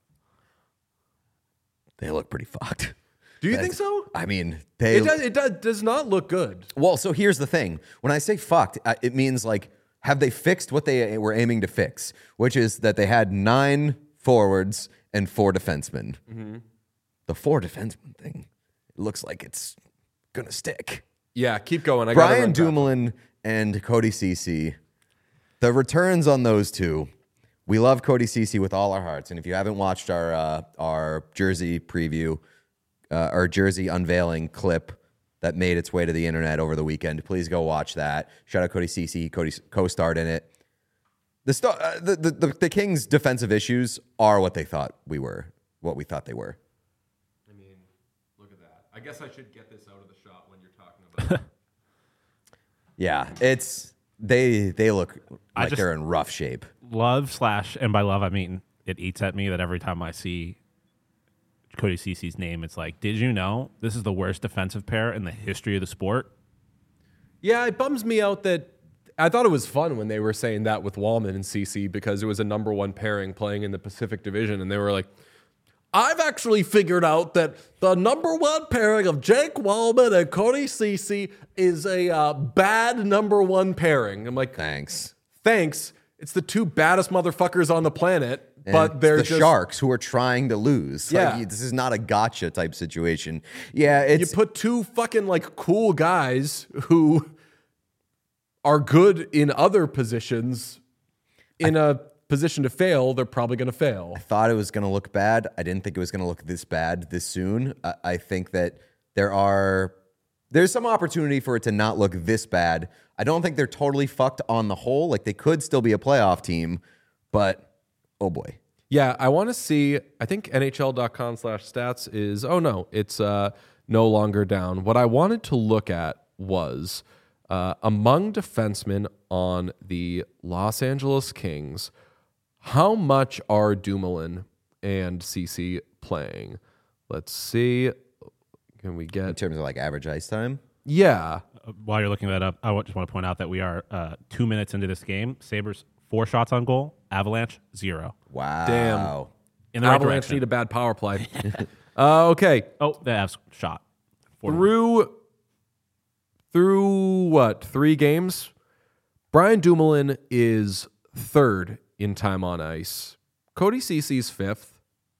They look pretty fucked. Do you That's- think so? I mean, they. It does, it does, does not look good. Well, so here's the thing. When I say fucked, uh, it means like, have they fixed what they were aiming to fix? Which is that they had nine forwards and four defensemen. Mm-hmm. The four defensemen thing, it looks like it's gonna stick. Yeah, keep going. I gotta Brian run back. Dumoulin and Cody Ceci, the returns on those two. We love Cody Ceci with all our hearts, and if you haven't watched our uh, our jersey preview, uh, our jersey unveiling clip that made its way to the internet over the weekend, please go watch that. Shout out Cody Ceci. Cody co-starred in it. The, star, uh, the, the the the Kings' defensive issues are what they thought we were, what we thought they were. I mean, look at that. I guess I should get this out of the shot when you're talking about it. Yeah, it's they they look I like just- they're in rough shape. Love slash, and by love I mean it eats at me that every time I see Cody Ceci's name, it's like, did you know this is the worst defensive pair in the history of the sport? Yeah, it bums me out that I thought it was fun when they were saying that with Wallman and C C because it was a number one pairing playing in the Pacific Division, and they were like, I've actually figured out that the number one pairing of Jake Wallman and Cody Ceci is a uh, bad number one pairing. I'm like, Thanks. thanks. It's the two baddest motherfuckers on the planet, And but it's they're the just Sharks who are trying to lose. Like, Yeah. you- this is not a gotcha type situation. Yeah, you it's put two fucking like cool guys who are good in other positions in a position to fail. They're probably going to fail. I thought it was going to look bad. I didn't think it was going to look this bad this soon. I, I think that there are there's some opportunity for it to not look this bad. I don't think they're totally fucked on the whole. Like they could still be a playoff team, but oh boy. Yeah, I want to see. I think N H L dot com slash stats is. Oh no, it's uh, no longer down. What I wanted to look at was uh, among defensemen on the Los Angeles Kings. How much are Dumoulin and Ceci playing? Let's see. Can we In get? terms of like average ice time. Yeah. Uh, While you're looking that up, I wa- just want to point out that we are uh, two minutes into this game. Sabres, four shots on goal. Avalanche, zero. Wow. Damn. In the right Avalanche direction. need a bad power play. uh, okay. Oh, the Avs shot. Four to one. Through through what? Three games? Brian Dumoulin is third in time on ice. Cody Ceci's fifth.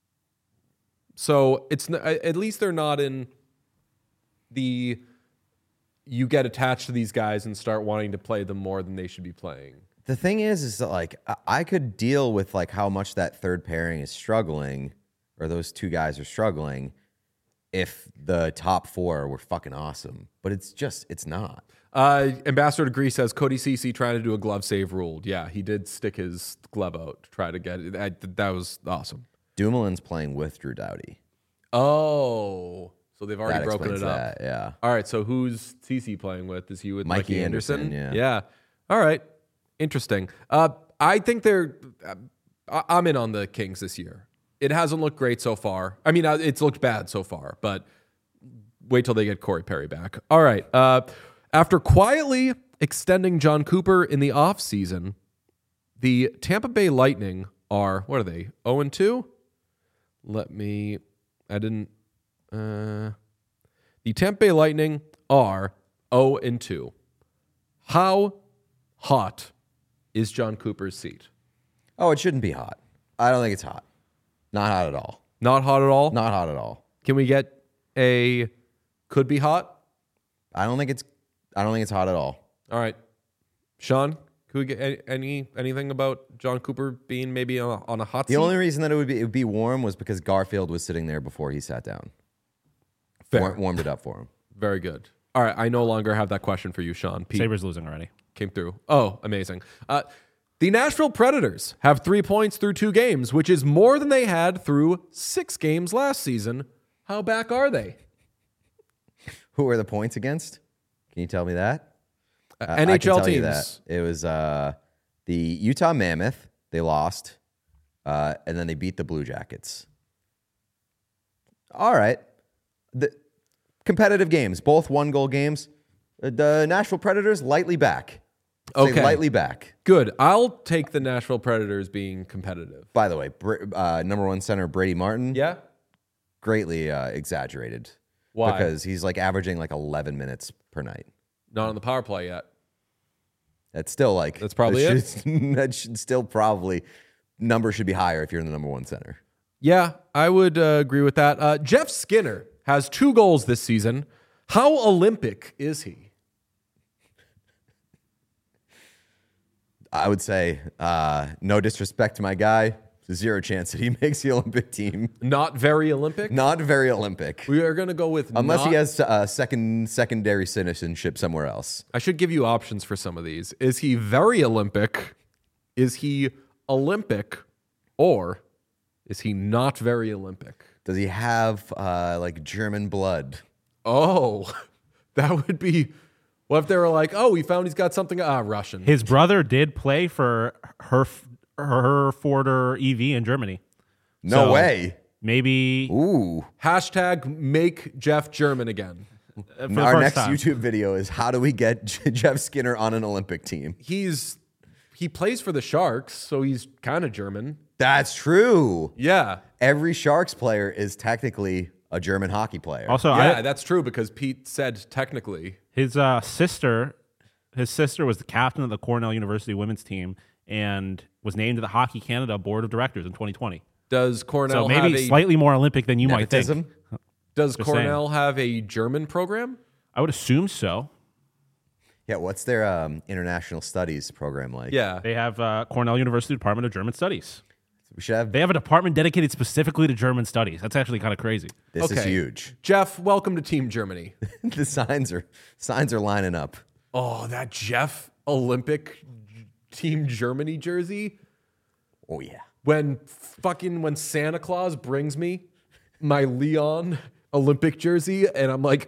So it's n- at least they're not in the you get attached to these guys and start wanting to play them more than they should be playing. The thing is, is that like I- I could deal with like how much that third pairing is struggling, or those two guys are struggling, if the top four were fucking awesome. But it's just it's not. Uh, Ambassador Degree says Cody Ceci trying to do a glove save ruled. Yeah, he did stick his glove out to try to get it. I, that was awesome. Dumoulin's playing with Drew Doughty. Oh, so they've already That broken it explains up. that, yeah. All right, so who's T C playing with? Is he with Mikey, Mikey Anderson? Anderson, Yeah. yeah. All right. Interesting. Uh, I think they're. I- I'm in on the Kings this year. It hasn't looked great so far. I mean, uh, it's looked bad so far, but wait till they get Corey Perry back. All right. Uh, after quietly extending John Cooper in the offseason, the Tampa Bay Lightning are, what are they, oh and two? Let me, I didn't, uh, the Tampa Bay Lightning are oh and two. How hot is John Cooper's seat? Oh, it shouldn't be hot. I don't think it's hot. Not hot at all. Not hot at all? Not hot at all. Can we get a could be hot? I don't think it's. I don't think it's hot at all. All right. Sean, could we get any, any anything about John Cooper being maybe on a, on a hot The seat? only reason that it would be it would be warm was because Garfield was sitting there before he sat down. Fair. War- warmed it up for him. Very good. All right. I no longer have that question for you, Sean. Pete Sabres losing already. came through. Oh, amazing. Uh, the Nashville Predators have three points through two games, which is more than they had through six games last season. How back are they? Who are the points against? Can you tell me that? Uh, Uh, N H L I can tell you teams. that. It was uh, the Utah Mammoth. They lost, uh, and then they beat the Blue Jackets. All right, the competitive games, both one goal games. Uh, The Nashville Predators lightly back. Say Okay. lightly back. Good. I'll take the Nashville Predators being competitive. By the way, Br- uh, number one center Brady Martin, Yeah? greatly uh, exaggerated. Why? Because he's like averaging like eleven minutes per night. Not on the power play yet. That's still like That's probably that it. should, that should still probably number should be higher if you're in the number one center. Yeah, I would uh, agree with that. Uh, Jeff Skinner has two goals this season. How Olympic is he? I would say uh, no disrespect to my guy, zero chance that he makes the Olympic team. Not very Olympic? Not very Olympic, We are going to go with unless not- he has uh, second secondary citizenship somewhere else. I should give you options for some of these. Is he very Olympic? Is he Olympic? Or is he not very Olympic? Does he have uh, like German blood? Oh, that would be. What if they were like, oh, we found he's got something. Ah, Russian. His brother did play for Herf, Herforder E V in Germany. No So way. Maybe Ooh. Hashtag make Jeff German again. uh, for the Our first next time. YouTube video is how do we get J- Jeff Skinner on an Olympic team? He's he plays for the Sharks, so he's kind of German. That's true. Yeah. Every Sharks player is technically a German hockey player. Also, Yeah, I, that's true because Pete said technically. his uh, sister, his sister was the captain of the Cornell University women's team and was named to the Hockey Canada Board of Directors in twenty twenty. Does Cornell So maybe have a slightly more Olympic than you Nepotism? might think. Does Just Cornell have a German program? I would assume so. Yeah, what's their um, international studies program like? Yeah. They have uh, Cornell University Department of German Studies. We should have They have a department dedicated specifically to German studies. That's actually kind of crazy. this is Okay. huge. Jeff, welcome to Team Germany. The signs are signs are lining up. Oh, that Jeff Olympic Team Germany jersey. Oh yeah. When fucking when Santa Claus brings me my Leon Olympic jersey and I'm like,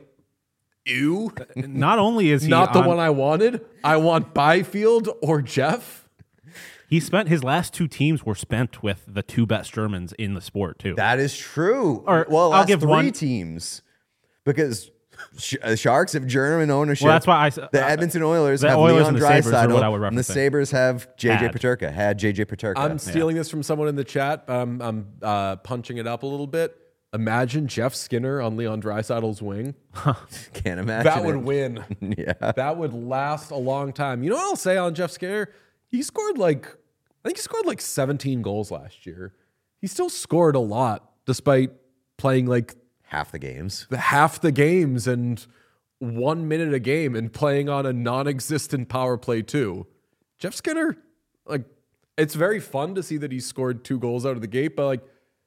ew, Not only is he not the on- one I wanted. I want Byfield or Jeff. he spent his last two teams were spent with the two best Germans in the sport too. That is true. Or, well, I'll last give three one- teams because sh- uh, Sharks have German ownership. Well, that's why I s- the uh, Edmonton Oilers the have Oilers Leon and the Sabres are Draisaitl, what I would and the reference it. Sabres have J J Had. Peterka. Had J J Peterka. I'm stealing this from someone in the chat. But I'm I'm uh, punching it up a little bit. Imagine Jeff Skinner on Leon Draisaitl's wing. Can't imagine That would it. win. Yeah. That would last a long time. You know what I'll say on Jeff Skinner? He scored like, I think he scored like seventeen goals last year. He still scored a lot despite playing like Half the games. the half the games and one minute a game and playing on a non-existent power play too. Jeff Skinner, like, it's very fun to see that he scored two goals out of the gate, but like,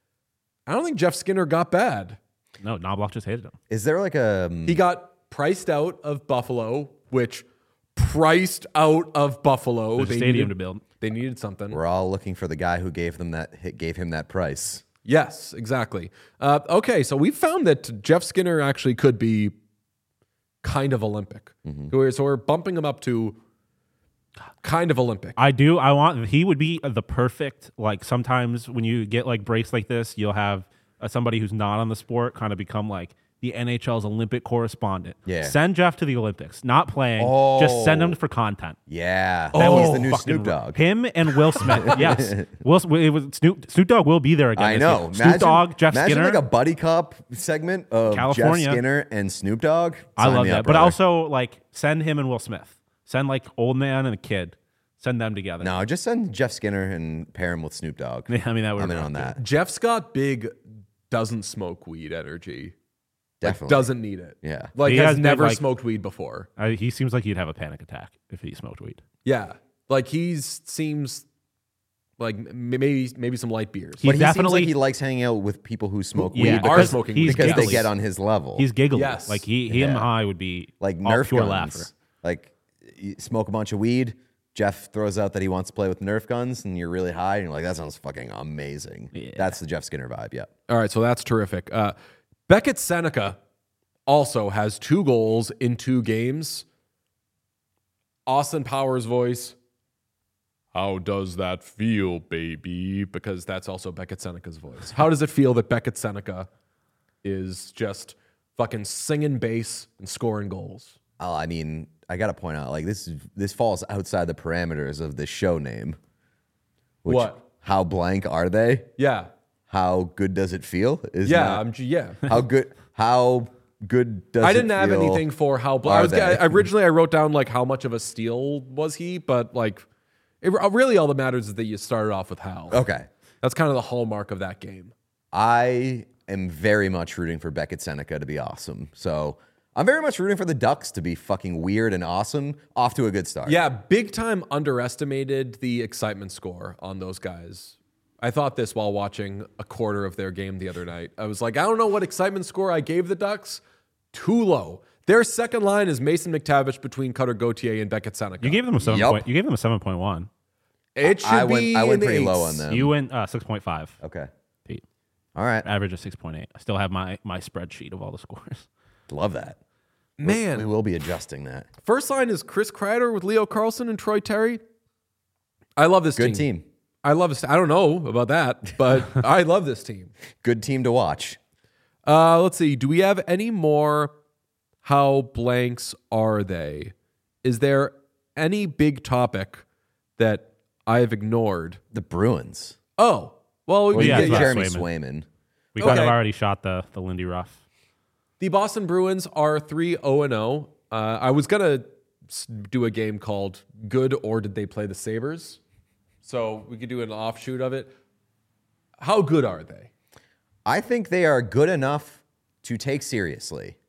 I don't think Jeff Skinner got bad. No, Knobloch just hated him. Is there like a um, He got priced out of Buffalo, which priced out of Buffalo. There's a They stadium needed- to build. They needed something. we're all looking for the guy who gave them that hit, gave him that price. Yes, exactly. Uh, okay, so we found that Jeff Skinner actually could be kind of Olympic. Mm-hmm. So we're- So we're bumping him up to kind of Olympic. I do. I want. He would be the perfect. Like sometimes when you get like breaks like this, you'll have uh, somebody who's not on the sport kind of become like the N H L's Olympic correspondent. Yeah. Send Jeff to the Olympics, not playing. Oh. Just send him for content. Yeah. That He's was the new fucking Snoop r- Dogg. Him and Will Smith. Yes. Will it was Snoop Snoop Dogg will be there again. I this know. year. Snoop Dogg, Jeff imagine Skinner. like a buddy cop segment of California. Jeff Skinner and Snoop Dogg. I Sign love me that. up, But brother. also like send him and Will Smith. Send like old man and a kid. Send them together. No, just send Jeff Skinner and pair him with Snoop Dogg. I mean that would I'm in be on that. Jeff's got big doesn't smoke weed energy. Like, Definitely. doesn't need it. Yeah. Like He has has big, never like- smoked weed before. Uh, he seems like he'd have a panic attack if he smoked weed. Yeah. Like he's seems like m- maybe maybe some light beers. He But he seems definitely- like he likes hanging out with people who smoke Yeah, weed are because, smoking he's weed. because they giggly. get on his level. He's giggly. Yes. Like he, he and Yeah. I would be like all Nerf pure guns. laugher. Like you smoke a bunch of weed. Jeff throws out that he wants to play with Nerf guns, and you're really high, and you're like, "That sounds fucking amazing." Yeah. That's the Jeff Skinner vibe. Yeah. All right, so that's terrific. Uh, Beckett Seneca also has two goals in two games. Austin Powers' voice. How does that feel, baby? Because that's also Beckett Seneca's voice. How does it feel that Beckett Seneca is just fucking singing bass and scoring goals? Oh, I mean, I gotta point out, like this is this falls outside the parameters of the show name. Which, What? How blank are they? Yeah, How good does it feel? Is yeah, not- I'm j- yeah. how good? How good does I it didn't have feel? anything for how. Bl- I are was they? I, originally I wrote down like how much of a steal was he, but like it, really all that matters is that you started off with how. Okay. That's kind of the hallmark of that game. I am very much rooting for Beckett Seneca to be awesome. So I'm very much rooting for the Ducks to be fucking weird and awesome. Off to a good start. Yeah, big time underestimated the excitement score on those guys. I thought this while watching a quarter of their game the other night. I was like, I don't know what excitement score I gave the Ducks. Too low. Their second line is Mason McTavish between Cutter Gauthier and Beckett Seneca. You gave them a seven Yup. point. You gave them a seven point one. it should I be went. I went in the pretty low eights. on them. You went uh, six point five. Okay. Pete. All right. Average of six point eight. I still have my my spreadsheet of all the scores. Love that. Man, We will be adjusting that. first line is Chris Kreider with Leo Carlson and Troy Terry. I love this Good team. team. I love this. I don't know about that, but I love this team. Good team to watch. Uh, let's see. Do we have any more? How blanks are they? Is there any big topic that I've ignored? The Bruins. Oh, well, we Well, can yeah, get- it's about Jeremy Swayman. Swayman. We kind of Okay. already shot the the Lindy Ruff. The Boston Bruins are three oh and oh. Uh, I was going to do a game called Good or Did They Play the Sabres? So we could do an offshoot of it. How good are they? I think they are good enough to take seriously.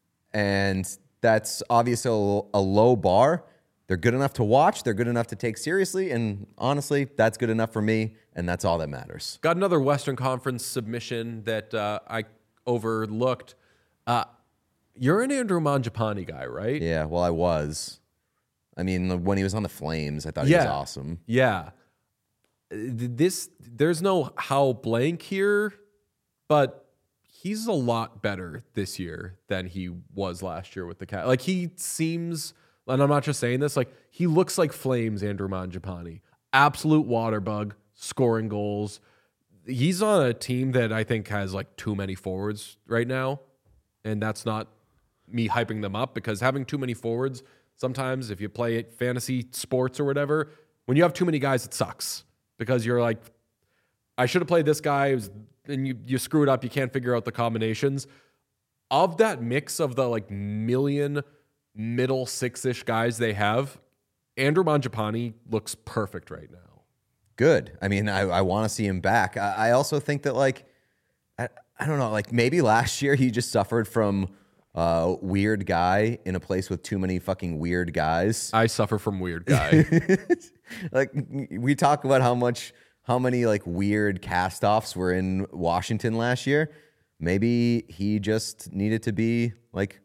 And that's obviously a, a low bar. They're good enough to watch. They're good enough to take seriously. And honestly, that's good enough for me. And that's all that matters. Got another Western Conference submission that uh, I overlooked. Uh, you're an Andrew Mangiapane guy, right? Yeah, well, I was. I mean, when he was on the Flames, I thought he was awesome. Yeah. Uh, This there's no how blank here, but he's a lot better this year than he was last year with the Cat. Like he seems, and I'm not just saying this, like he looks like Flames Andrew Mangiapane. Absolute water bug, scoring goals. He's on a team that I think has like too many forwards right now, and that's not me hyping them up because having too many forwards, sometimes if you play fantasy sports or whatever, when you have too many guys, it sucks because you're like, I should have played this guy, and you, you screw it up. You can't figure out the combinations. Of that mix of the like million middle six-ish guys they have, Andrew Mangiapane looks perfect right now. Good. I mean, I, I want to see him back. I, I also think that, like, I, I don't know, like maybe last year he just suffered from uh, weird guy in a place with too many fucking weird guys. I suffer from weird guy. Like, we talk about how much, how many like weird cast-offs were in Washington last year. Maybe he just needed to be like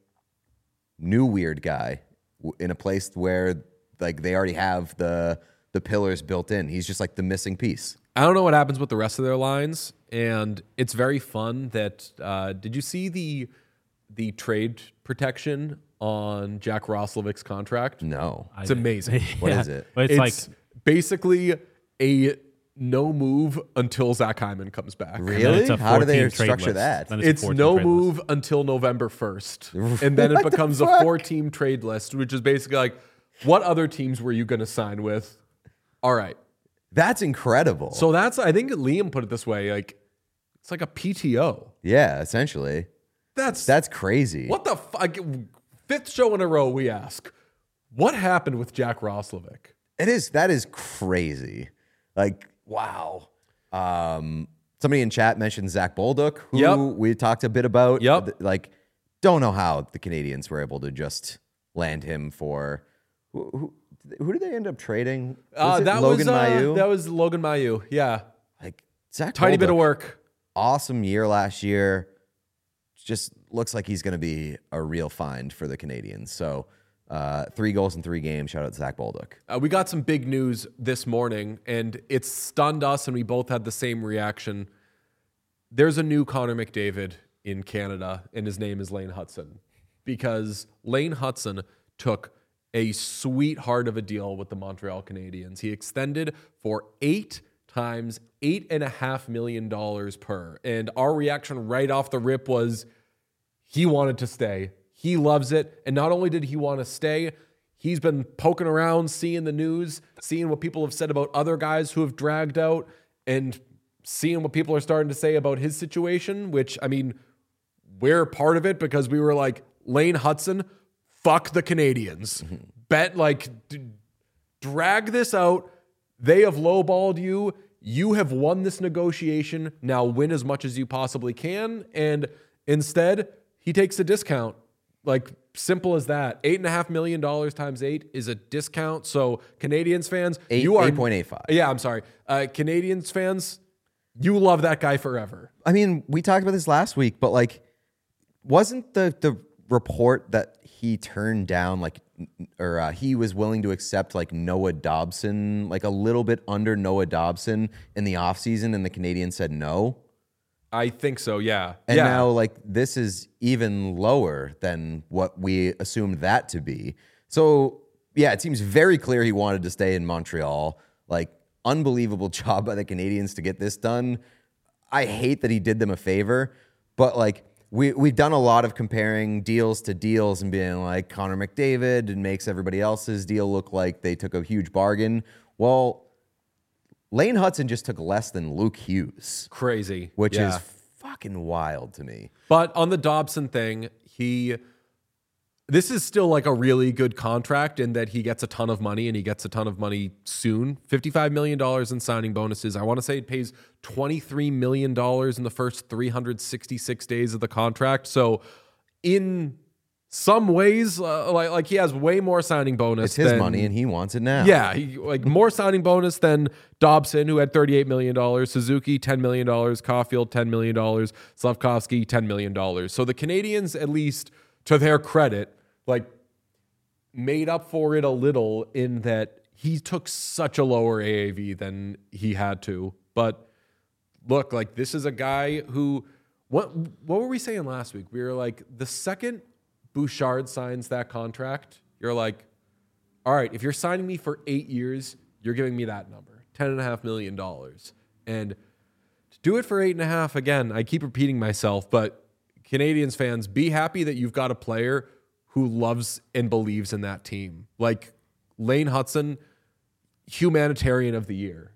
new weird guy w- in a place where like they already have the the pillars built in. He's just like the missing piece. I don't know what happens with the rest of their lines, and it's very fun that. Uh, did you see the the trade protection on Jack Roslovic's contract? No. It's amazing. What is it? But it's, It's like basically a no move until Zach Hyman comes back. Really? it's a How do they fourteen trade structure list. that? Then a It's fourteen no trade move list. until November first. And then it What the becomes a fuck? four-team trade list, which is basically like, what other teams were you going to sign with? All right. That's incredible. So that's, I think Liam put it this way, like, it's like a P T O. yeah, essentially. That's, That's crazy. what the fuck? Fifth show in a row we ask, what happened with Jack Roslovic? It is. That is crazy. Like, wow. Um, somebody in chat mentioned Zach Bolduc, who Yep. we talked a bit about. Yep. Th- Like, don't know how the Canadians were able to just land him for. Who, who, who did they end up trading? Was Uh, it that Logan was uh, Mailloux? that was Logan Mailloux. Yeah, like Zach. tiny bit of Bolduc, work. Awesome year last year. Just looks like he's going to be a real find for the Canadians. So, uh, three goals in three games. Shout out to Zach Bolduc. Uh, we got some big news this morning, and it stunned us, and we both had the same reaction. There's a new Connor McDavid in Canada, and his name is Lane Hudson, because Lane Hudson took a sweetheart of a deal with the Montreal Canadiens. He extended for eight times eight and a half million dollars per, and our reaction right off the rip was he wanted to stay. He loves it. And not only did he want to stay, he's been poking around, seeing the news, seeing what people have said about other guys who have dragged out, and seeing what people are starting to say about his situation, which, I mean, we're part of it because we were like, Lane Hudson, fuck the Canadians. Bet, like, d- drag this out. They have lowballed you. You have won this negotiation. Now win as much as you possibly can. And instead, he takes a discount. Like, simple as that. Eight and a half million dollars times eight is a discount. So, Canadians fans, Eight- you are eight point eight five. Yeah, I'm sorry. Uh, Canadians fans, you love that guy forever. I mean, we talked about this last week, but like, wasn't the the report that he turned down, like, or uh, he was willing to accept like Noah Dobson, like a little bit under Noah Dobson in the offseason, and the Canadians said no? I think so. Yeah. And yeah. now, like, this is even lower than what we assumed that to be. So, yeah, it seems very clear he wanted to stay in Montreal. Like, unbelievable job by the Canadians to get this done. I hate that he did them a favor, but, like, we, we've done a lot of comparing deals to deals and being like, Connor McDavid and makes everybody else's deal look like they took a huge bargain. Well, Lane Hudson just took less than Luke Hughes, Crazy. which Yeah. is fucking wild to me. But on the Dobson thing, he this is still like a really good contract in that he gets a ton of money and he gets a ton of money soon. fifty-five million dollars in signing bonuses. I want to say it pays twenty-three million dollars in the first three hundred sixty-six days of the contract. So in some ways, uh, like, like he has way more signing bonus. It's his than, money and he wants it now. Yeah, he, like more signing bonus than Dobson, who had thirty-eight million dollars, Suzuki, ten million dollars, Caulfield, ten million dollars, Slavkovsky, ten million dollars. So the Canadians, at least to their credit, like made up for it a little in that he took such a lower A A V than he had to. But look, like this is a guy who, what, what were we saying last week? We were like, the second Bouchard signs that contract, you're like, all right, if you're signing me for eight years, you're giving me that number, ten and a half million dollars. And to do it for eight and a half, again, I keep repeating myself, but Canadians fans, be happy that you've got a player who loves and believes in that team. Like Lane Hudson, humanitarian of the year.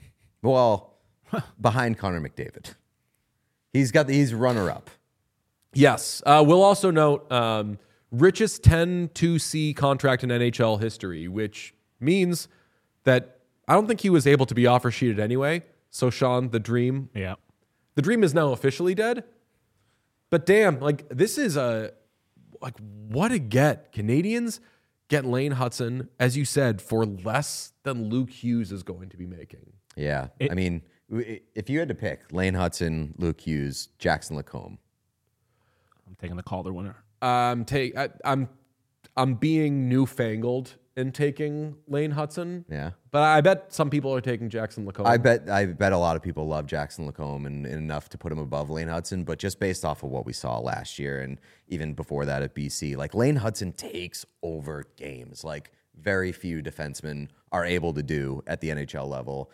Well, behind Connor McDavid. He's got the, he's runner up. Yes. Uh, we'll also note um, richest ten two C contract in N H L history, which means that I don't think he was able to be offer sheeted anyway. So, Sean, the dream, Yeah. the dream is now officially dead. But damn, like this is a, like what a get. Canadians get Lane Hudson, as you said, for less than Luke Hughes is going to be making. Yeah. It- I mean, w- if you had to pick Lane Hudson, Luke Hughes, Jackson Lacombe. I'm taking the Calder winner. Um, take I, I'm I'm being newfangled in taking Lane Hudson. Yeah. But I bet some people are taking Jackson Lacombe. I bet I bet a lot of people love Jackson Lacombe and, and enough to put him above Lane Hudson, but just based off of what we saw last year and even before that at B C, like Lane Hudson takes over games. Like very few defensemen are able to do at the N H L level.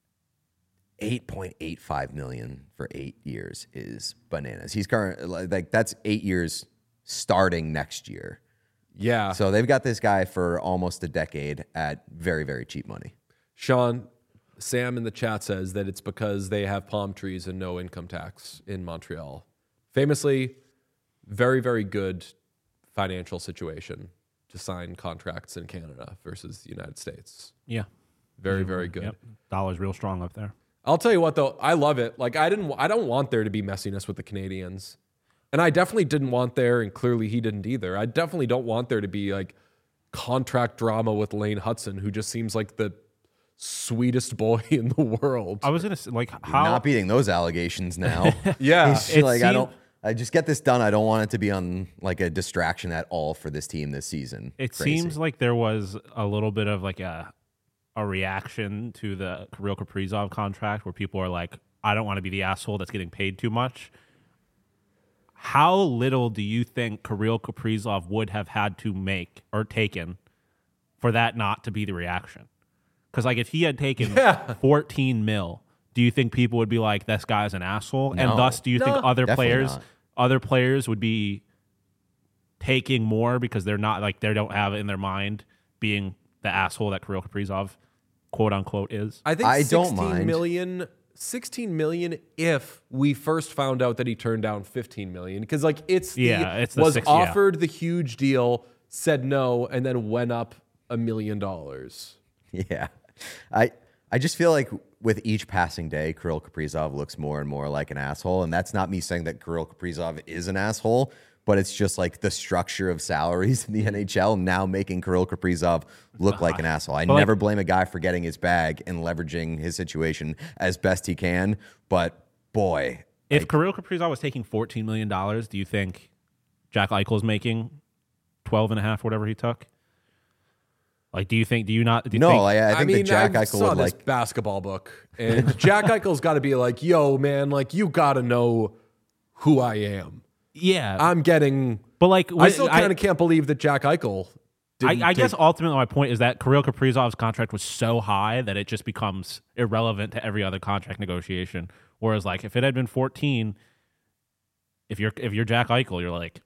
eight point eight five million for eight years is bananas. He's current like that's eight years starting next year. Yeah. So they've got this guy for almost a decade at very, very cheap money. Sean, Sam in the chat says that it's because they have palm trees and no income tax in Montreal. Famously, very, very good financial situation to sign contracts in Canada versus the United States. Yeah. Very, very good. Yep. Dollar's real strong up there. I'll tell you what, though, I love it. Like I didn't, I don't want there to be messiness with the Canadians. And I definitely didn't want there, and clearly he didn't either. I definitely don't want there to be like contract drama with Lane Hudson, who just seems like the sweetest boy in the world. I was gonna say, like, You're how not beating those allegations now. Yeah. He's It like I seemed- don't. I just get this done. I don't want it to be on like a distraction at all for this team this season. it Crazy. seems like there was a little bit of like a a reaction to the Kirill Kaprizov contract where people are like, I don't want to be the asshole that's getting paid too much. How little do you think Kirill Kaprizov would have had to make or taken for that not to be the reaction? Because like if he had taken Yeah. fourteen mil, do you think people would be like, this guy's an asshole? No. And thus, do you think No, other definitely players, not. other players would be taking more because they're not like they don't have it in their mind being the asshole that Kirill Kaprizov, quote unquote, is? I think I don't sixteen mind. million, sixteen million if we first found out that he turned down fifteen million. Because like it's the, Yeah, it's the was six- yeah. offered the huge deal, said no, and then went up a million dollars. Yeah, I I just feel like with each passing day, Kirill Kaprizov looks more and more like an asshole, and that's not me saying that Kirill Kaprizov is an asshole, but it's just like the structure of salaries in the N H L now making Kirill Kaprizov look like an asshole. I But like- never blame a guy for getting his bag and leveraging his situation as best he can, but boy, If Kirill Kaprizov was taking fourteen million dollars, do you think Jack Eichel's making twelve and a half, whatever he took? Like, do you think, do you not, do you no, think, I, I think mean, that Jack I Eichel saw would this like. basketball book, and Jack Eichel's got to be like, "Yo, man, like you got to know who I am. yeah. I'm getting." but like, I when- still kind of can't believe that Jack Eichel. I, didn't I guess take- ultimately my point is that Kirill Kaprizov's contract was so high that it just becomes irrelevant to every other contract negotiation. Whereas, like, if it had been fourteen, if you're if you're Jack Eichel, you're like,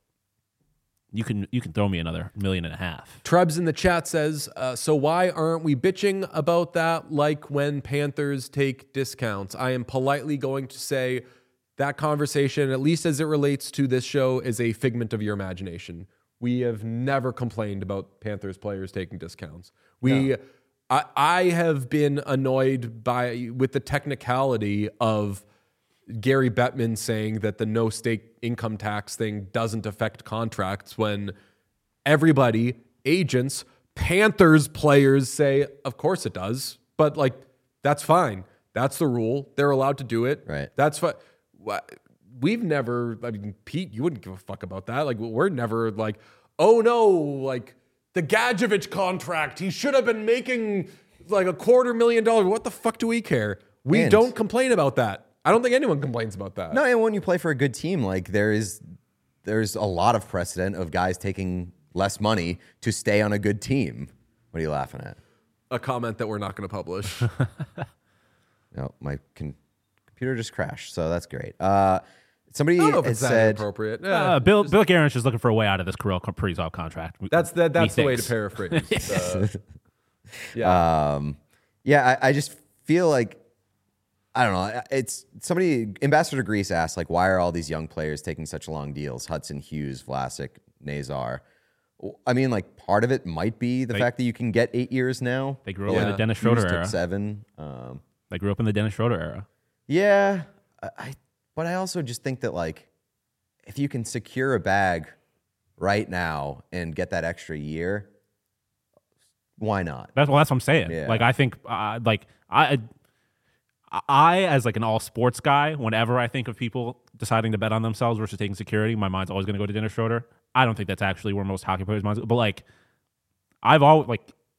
you can you can throw me another million and a half. Trebs in the chat says, uh, so why aren't we bitching about that like when Panthers take discounts? I am politely going to say that conversation, at least as it relates to this show, is a figment of your imagination. We have never complained about Panthers players taking discounts. We, I, I have been annoyed by with the technicality of Gary Bettman saying that the no stake income tax thing doesn't affect contracts when everybody, agents, Panthers players say, of course it does. But like, that's fine. That's the rule. They're allowed to do it. Right. That's fine. We've never, I mean, Pete, you wouldn't give a fuck about that. Like, we're never like, oh no, like the Gadjevich contract, he should have been making like a quarter million dollars. What the fuck do we care? We And- don't complain about that. I don't think anyone complains about that. No, and when you play for a good team, like there is, there's a lot of precedent of guys taking less money to stay on a good team. What are you laughing at? A comment that we're not going to publish. No, my con- computer just crashed, so that's great. Uh, somebody I don't know if has it's that said, inappropriate. Yeah, Uh, Bill Bill Guerin's just looking for a way out of this Kirill Kaprizov contract. that's that. That's the way to Methinks. paraphrase. Uh, yeah. um, yeah, I, I just feel like, I don't know. It's somebody, Ambassador Grease asked, like, why are all these young players taking such long deals? Hudson, Hughes, Vlasic, Nazar. I mean, like, part of it might be the They- fact that you can get eight years now. They grew up Yeah. in the Dennis Hughes Schroeder took era. seven. Um, They grew up in the Dennis Schroeder era. yeah, I, I, but I also just think that, like, if you can secure a bag right now and get that extra year, why not? That's well, that's what I'm saying. Yeah. Like I think, uh, like I, I as like an all sports guy, whenever I think of people deciding to bet on themselves versus taking security, my mind's always going to go to Dennis Schroeder. I don't think that's actually where most hockey players' minds. But like, I've always like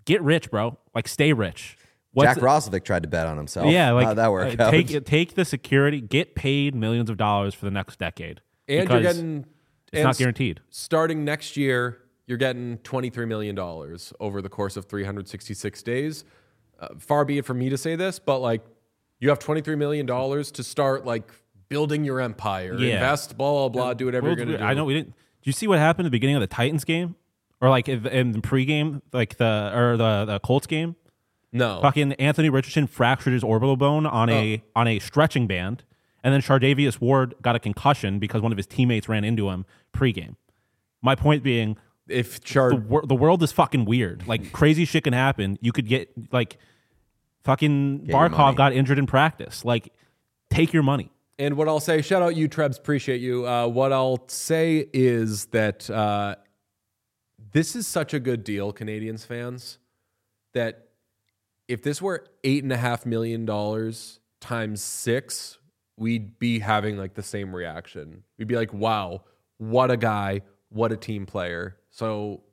get rich, bro. Like, stay rich. What's Jack Roslovic tried to bet on himself. Yeah, like how'd that work uh, out? take take the security, get paid millions of dollars for the next decade, And because you're getting it's and not guaranteed. Starting next year, you're getting twenty-three million dollars over the course of three hundred sixty-six days. Uh, far be it from me to say this, but like you have twenty-three million dollars to start like building your empire, Yeah. invest, blah, blah, blah, do whatever World's you're going to weird. do. I know we didn't. Did you see what happened at the beginning of the Titans game, or like in the in the pregame, like the or the, the Colts game? No. Fucking Anthony Richardson fractured his orbital bone on a on a stretching band, and then Chardavius Ward got a concussion because one of his teammates ran into him pregame. My point being, If the, Chard, wor- the world is fucking weird. Like, crazy shit can happen. You could get like fucking your money. Barkov got injured in practice. Like, take your money. and what I'll say, shout out you, Trebs, appreciate you. Uh, what I'll say is that uh, this is such a good deal, Canadians fans, that if this were eight and a half million dollars times six, we'd be having like the same reaction. We'd be like, wow, what a guy, what a team player. So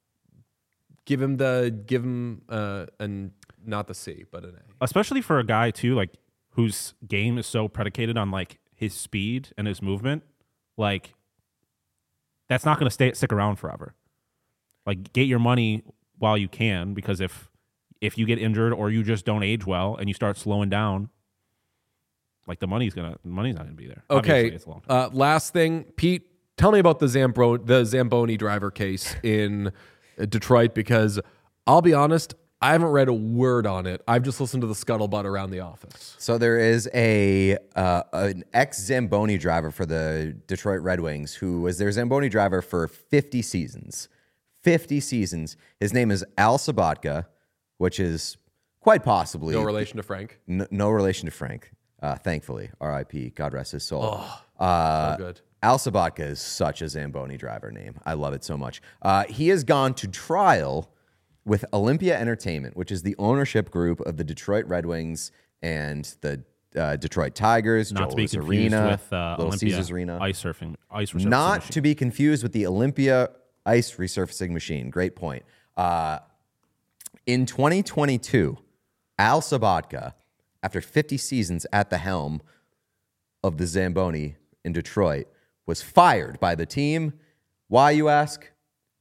give him the give him uh and not the C, but an A. Especially for a guy too, like whose game is so predicated on like his speed and his movement. Like, that's not going to stay stick around forever. Like, get your money while you can, because if if you get injured or you just don't age well and you start slowing down, like the money's gonna money's not gonna be there. Obviously, Okay. it's a long time. Uh, last thing, Pete, tell me about the Zambro- the Zamboni driver case in uh, Detroit, because I'll be honest, I haven't read a word on it. I've just listened to the scuttlebutt around the office. So there is a uh, an ex Zamboni driver for the Detroit Red Wings who was their Zamboni driver for fifty seasons. fifty seasons. His name is Al Sabatka, which is quite possibly No relation to Frank. n- no relation to Frank. Uh, thankfully, R I P. God rest his soul. uh, So good. Al Sabatka is such a Zamboni driver name. I love it so much. Uh, he has gone to trial with Olympia Entertainment, which is the ownership group of the Detroit Red Wings and the uh, Detroit Tigers, Not to be Joe's confused Arena, with uh, Little Olympia Caesars Arena. ice surfing, ice resurfacing Not machine. to be confused with the Olympia ice resurfacing machine. Great point. Uh, in twenty twenty-two, Al Sabatka, after fifty seasons at the helm of the Zamboni in Detroit, was fired by the team. Why, you ask?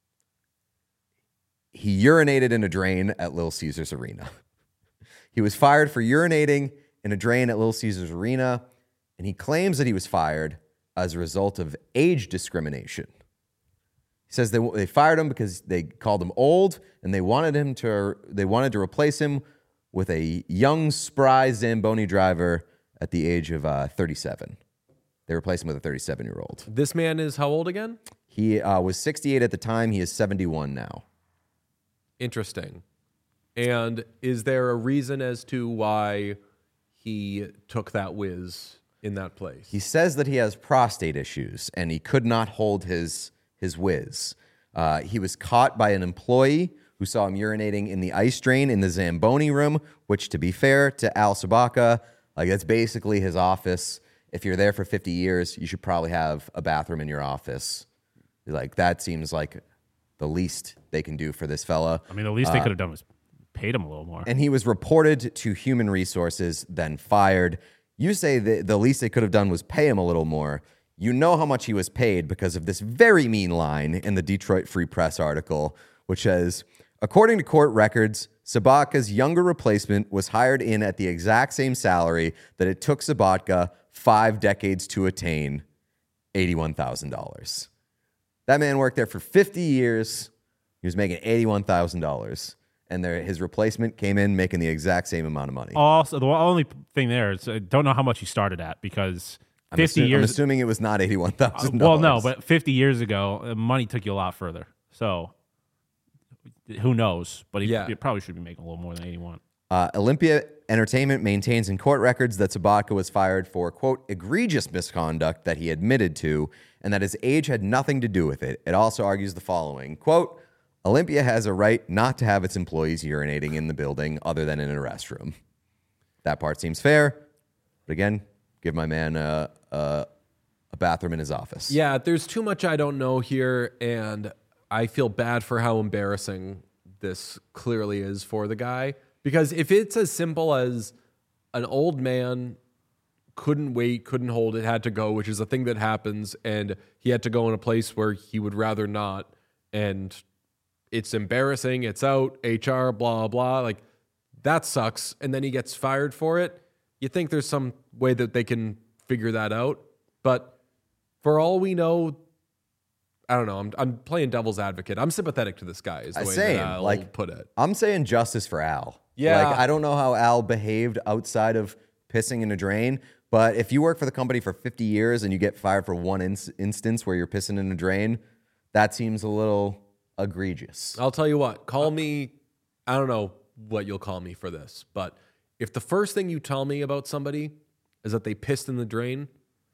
He urinated in a drain at Little Caesars Arena. He was fired for urinating in a drain at Little Caesars Arena, and he claims that he was fired as a result of age discrimination. He says they, they fired him because they called him old, and they wanted him to they wanted to replace him with a young, spry Zamboni driver at the age of uh, thirty-seven. They replaced him with a thirty-seven-year-old. This man is how old again? He uh, was sixty-eight at the time. He is seventy-one now. Interesting. And is there a reason as to why he took that whiz in that place? He says that he has prostate issues and he could not hold his his whiz. Uh, he was caught by an employee who saw him urinating in the ice drain in the Zamboni room, which, to be fair to Al Sabatka, like that's basically his office. If you're there for fifty years, you should probably have a bathroom in your office. Like, that seems like the least they can do for this fella. I mean, the least they could have done was paid him a little more. And he was reported to Human Resources, then fired. You say that the least they could have done was pay him a little more. You know how much he was paid because of this very mean line in the Detroit Free Press article, which says, according to court records, Sabatka's younger replacement was hired in at the exact same salary that it took Sabatka five decades to attain, eighty-one thousand dollars. That man worked there for fifty years. He was making eighty-one thousand dollars. And there, his replacement came in making the exact same amount of money. Also, the only thing there is I don't know how much he started at, because I'm fifty assu- years. I'm assuming it was not eighty-one thousand Well, dollars. no, but fifty years ago, uh, money took you a lot further. So who knows? But he, Yeah. he probably should be making a little more than eighty-one. Uh, Olympia Entertainment maintains in court records that Sabatka was fired for, quote, egregious misconduct that he admitted to, and that his age had nothing to do with it. It also argues the following, quote, Olympia has a right not to have its employees urinating in the building other than in a restroom. That part seems fair. But again, give my man a, a, a bathroom in his office. Yeah, there's too much I don't know here, and I feel bad for how embarrassing this clearly is for the guy. Because if it's as simple as an old man couldn't wait, couldn't hold it, had to go, which is a thing that happens, and he had to go in a place where he would rather not, and it's embarrassing, it's out, H R, blah, blah, like, that sucks, and then he gets fired for it. You think there's some way that they can figure that out, but for all we know, I don't know. I'm I'm playing devil's advocate. I'm sympathetic to this guy. Is the way Same. that I'll like, put it. I'm saying justice for Al. Yeah. Like, I don't know how Al behaved outside of pissing in a drain, but if you work for the company for fifty years and you get fired for one ins- instance where you're pissing in a drain, that seems a little egregious. I'll tell you what. Call me. I don't know what you'll call me for this, but if the first thing you tell me about somebody is that they pissed in the drain,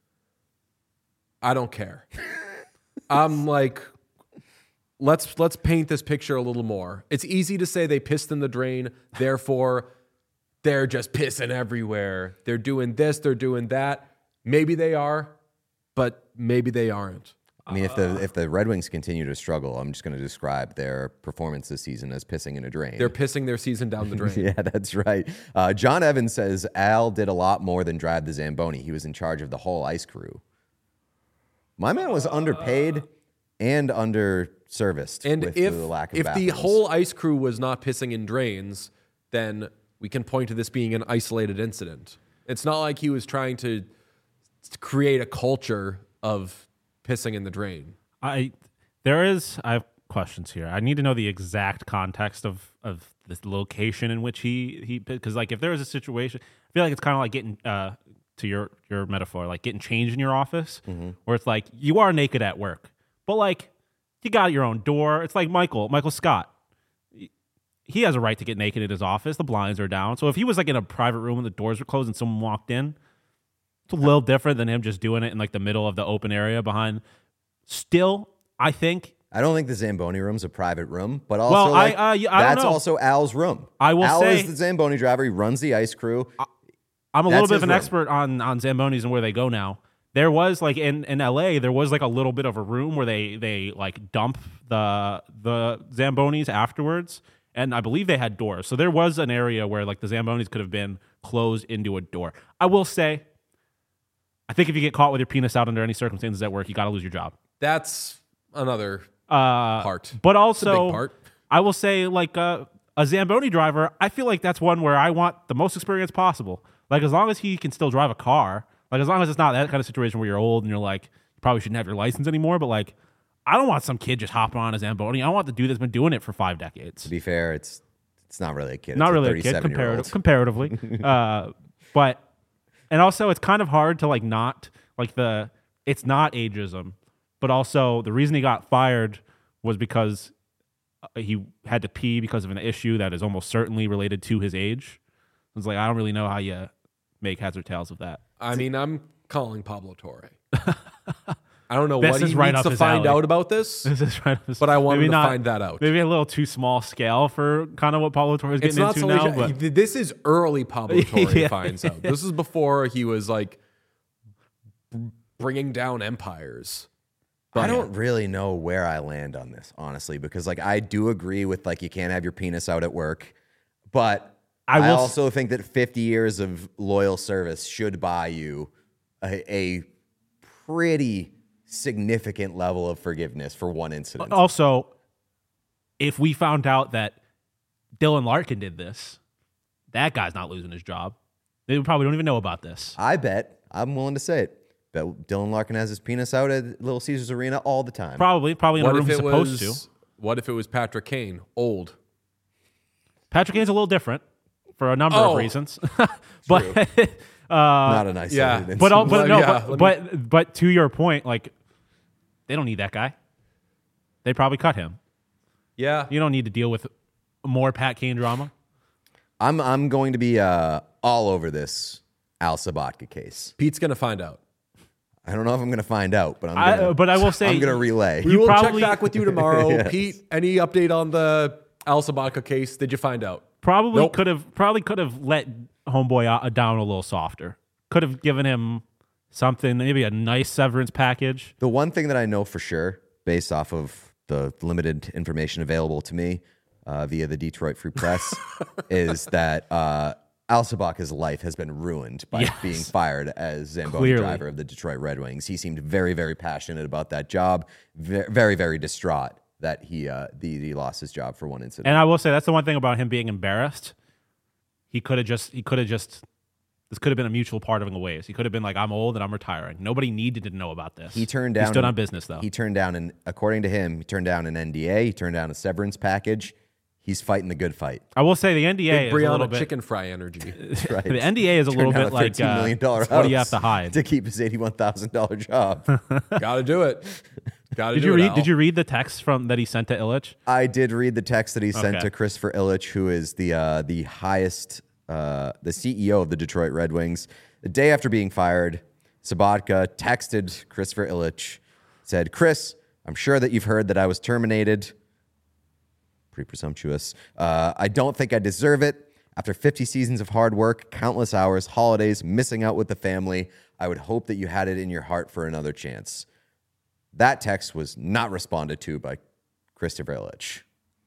I don't care. I'm like, let's let's paint this picture a little more. It's easy to say they pissed in the drain, therefore they're just pissing everywhere. They're doing this, they're doing that. Maybe they are, but maybe they aren't. I mean, if the if the Red Wings continue to struggle, I'm just going to describe their performance this season as pissing in a drain. They're pissing their season down the drain. Yeah, that's right. Uh, John Evans says Al did a lot more than drive the Zamboni. He was in charge of the whole ice crew. My man was underpaid and under-serviced And with if the lack of if the bathrooms. whole ice crew was not pissing in drains, then we can point to this being an isolated incident. It's not like he was trying to create a culture of pissing in the drain. I there is I have questions here. I need to know the exact context of of the location in which he he because like if there is a situation, I feel like it's kind of like getting uh to your your metaphor, like getting changed in your office, Mm-hmm. where it's like you are naked at work, but like you got your own door. It's like Michael Michael Scott. He has a right to get naked in his office. The blinds are down. So if he was like in a private room and the doors were closed and someone walked in, it's a little different than him just doing it in like the middle of the open area behind. Still, I think I don't think the Zamboni room's a private room, but also Well, I- like, uh, yeah, I don't that's know. also Al's room. I will Al say- is the Zamboni driver. He runs the ice crew. I'm a That's little bit his of an room. expert on on Zambonis and where they go now. There was like in, in L A, there was like a little bit of a room where they they like dump the the Zambonis afterwards, and I believe they had doors. So there was an area where like the Zambonis could have been closed into a door. I will say, I think if you get caught with your penis out under any circumstances at work, you got to lose your job. That's another Uh, part. But It's a also, big part. I will say, like uh, a Zamboni driver, I feel like that's one where I want the most experience possible. Like as long as he can still drive a car, like as long as it's not that kind of situation where you're old and you're like, you probably shouldn't have your license anymore. But like, I don't want some kid just hopping on a Zamboni. I want the dude that's been doing it for five decades. To be fair, it's it's not really a kid. Not it's really a a kid, thirty-seven-year-old. comparative, comparatively. uh, but and also it's kind of hard to like not like the it's not ageism, but also the reason he got fired was because uh, he had to pee because of an issue that is almost certainly related to his age. It's like I don't really know how you make heads or tails of that. I mean, I'm calling Pablo Torre. I don't know This what is he right needs up to his find alley. out about this. This is right. But I want maybe him to not- find that out. Maybe a little too small scale for kind of what Pablo Torre is It's getting not into so now. But this is early Pablo Torre Yeah. finds out. This is before he was like b- bringing down empires. I don't really know where I land on this, honestly, because like I do agree with like you can't have your penis out at work, but I I, will s- also think that fifty years of loyal service should buy you a, a pretty significant level of forgiveness for one incident. also, if we found out that Dylan Larkin did this, that guy's not losing his job. They probably don't even know about this. I bet I'm willing to say it. Bet Dylan Larkin has his penis out at Little Caesars Arena all the time. Probably, probably in a What room if he's it supposed was? to. What if it was Patrick Kane, old? Patrick Kane's a little different for a number Oh. of reasons, but Not a nice yeah. incident. but al- but Well, no, yeah, but, let but but to your point, like they don't need that guy. They probably cut him. Yeah. You don't need to deal with more Pat Kane drama. I'm I'm going to be uh, all over this Al Sabatka case. Pete's gonna find out. I don't know if I'm going to find out, but I'm I, gonna, uh, but I will say I'm going to relay. We You will probably- check back with you tomorrow. Pete, any update on the Al Sabatka case? Did you find out? probably Nope. could have probably could have let homeboy out, down a little softer. Could have given him something, maybe a nice severance package. The one thing that I know for sure, based off of the limited information available to me, uh, via the Detroit Free Press is that uh, Al Sabaka's life has been ruined by Yes. being fired as Zamboni Clearly. driver of the Detroit Red Wings. He seemed very, very passionate about that job, very, very, very distraught that he uh, the, he lost his job for one incident. And I will say that's the one thing about him being embarrassed. He could have just, he could have just, this could have been a mutual parting of ways. He could have been like, I'm old and I'm retiring. Nobody needed to know about this. He turned down. He stood an- on business though. He turned down, and according to him, he turned down an N D A. He turned down a severance package. He's fighting the good fight. I will say the N D A Big is a little Brianna bit. chicken fry energy. Right. The N D A is a Turned little down bit like thirteen uh, million dollars what do you have house to hide? to keep his eighty-one thousand dollar job? Gotta do it. Gotta Did do you it, read? Al. Did you read the text from that he sent to Illich? I did read the text that he sent Okay. to Christopher Illich, who is the uh, the highest, uh, the C E O of the Detroit Red Wings. The day after being fired, Sabatka texted Christopher Illich, said, "Chris, I'm sure that you've heard that I was terminated." Pretty presumptuous. Uh, I don't think I deserve it. After fifty seasons of hard work, countless hours, holidays, missing out with the family, I would hope that you had it in your heart for another chance. That text was not responded to by Christopher Illich.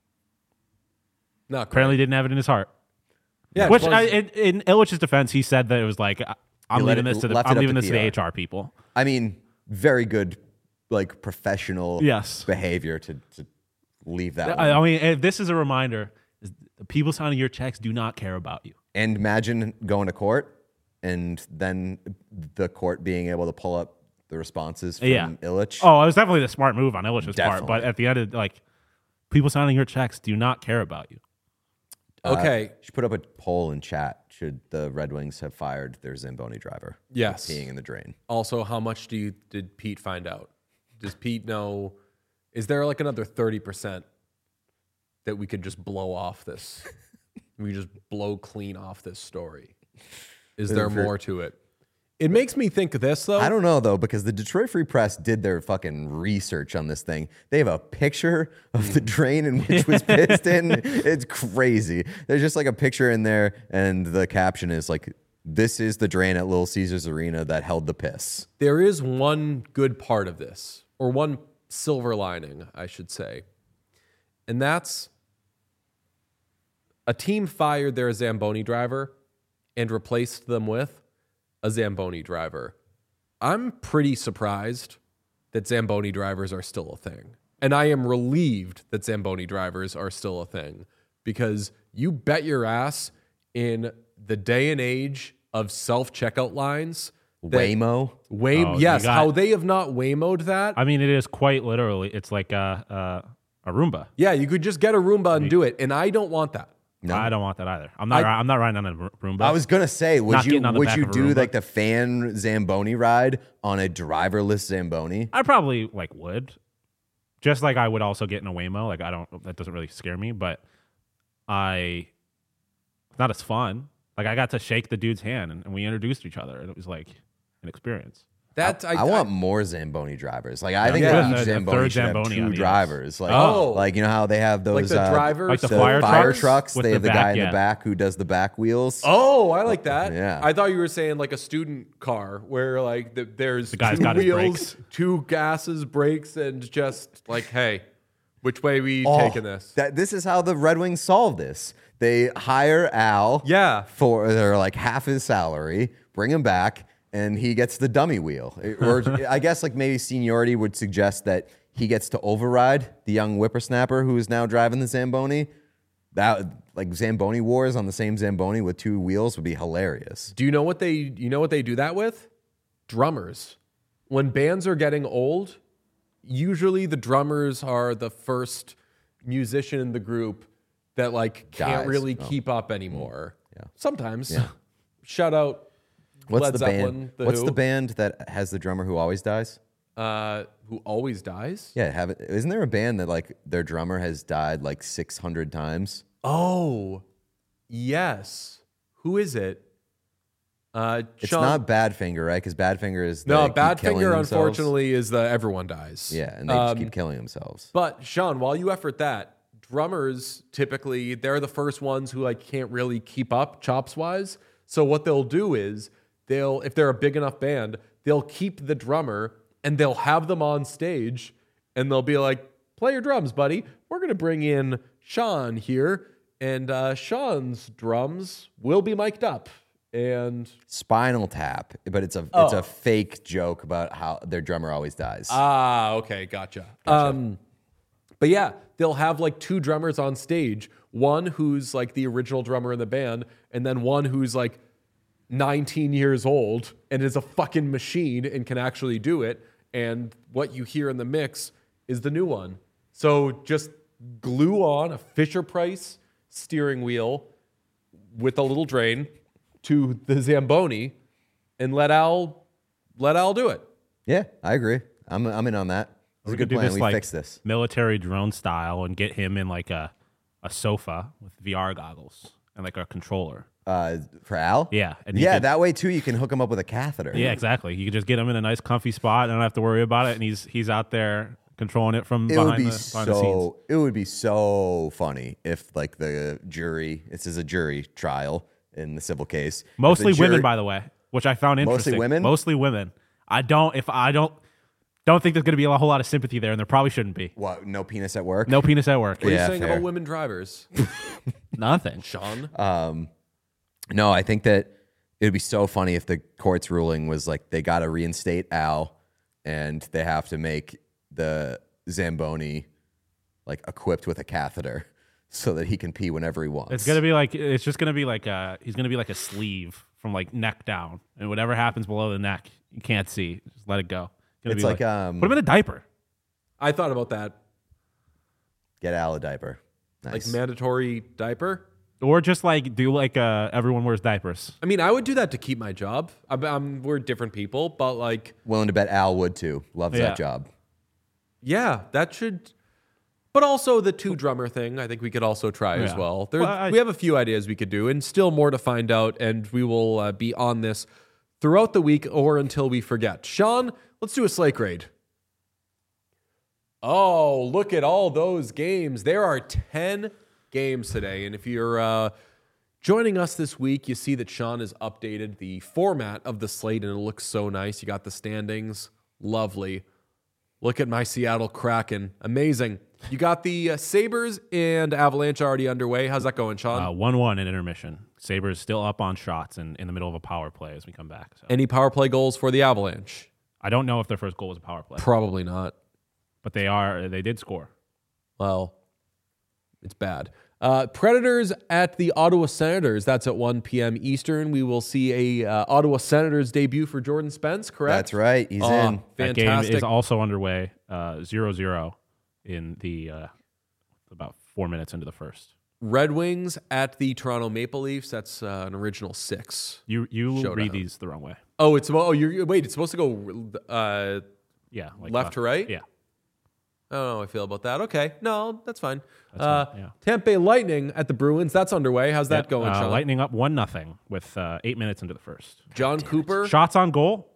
Not Apparently, didn't have it in his heart. Yeah, Which, it I, was- in, in Illich's defense, he said that it was like, I- I'm He let leaving it- this to the left it I'm up leaving to this to the P R. H R people. I mean, very good, like professional Yes. behavior to, to leave that. I, one. I mean, if this is a reminder: is the people signing your checks do not care about you. And imagine going to court and then the court being able to pull up the responses from Yeah. Illich. Oh, it was definitely the smart move on Illich's part. But Definitely. at the end of like, people signing your checks do not care about you. Okay. Should put up a poll in chat. Should the Red Wings have fired their Zamboni driver? Yes. Peeing in the drain. Also, how much do you did Pete find out? Does Pete know? Is there like another thirty percent that we could just blow off this? We just blow clean off this story. Is there For- more to it? It makes me think of this though. I don't know though, because the Detroit Free Press did their fucking research on this thing. They have a picture of the drain in which was pissed in. It's crazy. There's just like a picture in there, and the caption is like, "This is the drain at Little Caesars Arena that held the piss." There is one good part of this, or one silver lining, I should say. And that's a team fired their Zamboni driver and replaced them with a Zamboni driver. I'm pretty surprised that Zamboni drivers are still a thing. And I am relieved that Zamboni drivers are still a thing, because you bet your ass in the day and age of self-checkout lines, that- Waymo. Way, Oh, you yes, got- how they have not Waymo'd that. I mean, it is quite literally. It's like a a, a Roomba. yeah, you could just get a Roomba and do it, and I don't want that. I don't want that either. I'm not. I- I'm not riding on a Ro- Roomba. I was gonna say, would Not you getting on the would back you of a do Roomba. like the fan Zamboni ride on a driverless Zamboni? I probably like would, just like I would also get in a Waymo. Like I don't. That doesn't really scare me, but I. It's not as fun. Like I got to shake the dude's hand, and, and we introduced each other, and it was like an experience. That I, I, want more Zamboni drivers. Like I think Yeah. that A- each a Zamboni third should have Zamboni two on the drivers. Like, Oh. like you know how they have those like the uh, drivers, like the the fire fire trucks trucks. with They the have the back, guy in yeah. the back who does the back wheels. Oh, I like that. Yeah. I thought you were saying like a student car where like the, there's The guy's two got his wheels, brakes. two gases, brakes, and just like, hey, which way we Oh, taking this? That this is how the Red Wings solve this. They hire Al, Yeah. for they're like half his salary, bring him back, and he gets the dummy wheel. It- Or I guess like maybe seniority would suggest that he gets to override the young whippersnapper who is now driving the Zamboni. That like Zamboni wars on the same Zamboni with two wheels would be hilarious. Do you know what they you know what they do that with? Drummers. When bands are getting old, usually the drummers are the first musician in the group that like can't Dies. really Oh. keep up anymore. Yeah. Sometimes. Shout out What's Led the Zeppelin, band? The What's Who. the band that has the drummer who always dies? uh, who always dies. Yeah, have it. Isn't there a band that like their drummer has died like six hundred times? Oh, yes. Who is it? Uh, It's Sean- not Badfinger, right? Because Badfinger is No, they keep killing Badfinger, themselves. unfortunately, is the everyone dies. Yeah, and they Um, just keep killing themselves. But Sean, while you effort that, drummers typically they're the first ones who like can't really keep up chops wise. So what they'll do is they'll if they're a big enough band, they'll keep the drummer and they'll have them on stage and they'll be like, "Play your drums, buddy. We're gonna bring in Sean here, and uh, Sean's drums will be mic'd up. And Spinal Tap, but it's a it's Oh. a fake joke about how their drummer always dies. ah, okay, gotcha. Um, but yeah, they'll have like two drummers on stage. One who's like the original drummer in the band, and then one who's like nineteen years old and is a fucking machine and can actually do it. And what you hear in the mix is the new one. So just glue on a Fisher-Price steering wheel with a little drain to the Zamboni and let Al let Al do it. yeah, I agree. I'm I'm in on that. It's a We good could do plan. this We like fix this. military drone style and get him in like a a sofa with V R goggles and like a controller. Uh, for Al? Yeah, and you yeah, could- that way too you can hook him up with a catheter. Yeah, exactly. You could just get him in a nice, comfy spot and don't have to worry about it. And he's he's out there controlling it from It behind, would be the, behind the scenes. so it would be so funny if like the jury, this is a jury trial in the civil case. If the Mostly jury- women, by the way, which I found Mostly interesting. women? Mostly women. I don't. If I don't don't think there's going to be a whole lot of sympathy there, and there probably shouldn't be. What, no penis at work? No penis at work. What are Yeah, you saying fair. about women drivers, Nothing. Sean? No, I think that it would be so funny if the court's ruling was like they got to reinstate Al and they have to make the Zamboni like equipped with a catheter so that he can pee whenever he wants. It's gonna be like it's just gonna be like a he's gonna be like a sleeve from like neck down, and whatever happens below the neck, you can't see. Just let it go. Gonna It's be like, um, put him in a diaper. I thought about that. Get Al a diaper. Like Nice. mandatory diaper. Or just like do like uh, everyone wears diapers. I mean, I would do that to keep my job. I'm, I'm, we're different people, but like, Willing to bet Al would too. Loves Yeah. that job. yeah, that should. But also the two drummer thing, I think we could also try as Yeah. well. There, Well, I- we have a few ideas we could do, and still more to find out. And we will uh, be on this throughout the week or until we forget. Sean, let's do a slate grade. Oh, look at all those games. There are ten games today. And if you're uh, joining us this week, you see that Sean has updated the format of the slate, and it looks so nice. You got the standings. Lovely. Look at my Seattle Kraken. Amazing. You got the uh, Sabres and Avalanche already underway. How's that going, Sean? Uh, one one in intermission. Sabres still up on shots and in the middle of a power play as we come back. So. Any power play goals for the Avalanche? I don't know if their first goal was a power play, Probably not. but they are they did score. Well, it's bad. Uh, Predators at the Ottawa Senators. That's at one p.m. Eastern. We will see a uh, Ottawa Senators debut for Jordan Spence, correct? That's right. He's Oh, in. That game fantastic. is also underway, uh, zero zero in the uh, about four minutes into the first. Red Wings at the Toronto Maple Leafs. That's uh, an original six. You you Showdown. read these the wrong way. Oh, it's oh, you're wait. It's supposed to go uh, Yeah, like left uh, to right. Yeah, I don't know how I feel about that. Okay, no, that's fine. That's uh, fine, yeah. Tampa Bay Lightning at the Bruins. That's underway. How's that Yep, going, uh, Sean? Lightning up one nothing with uh, eight minutes into the first. John Cooper, Shots on goal.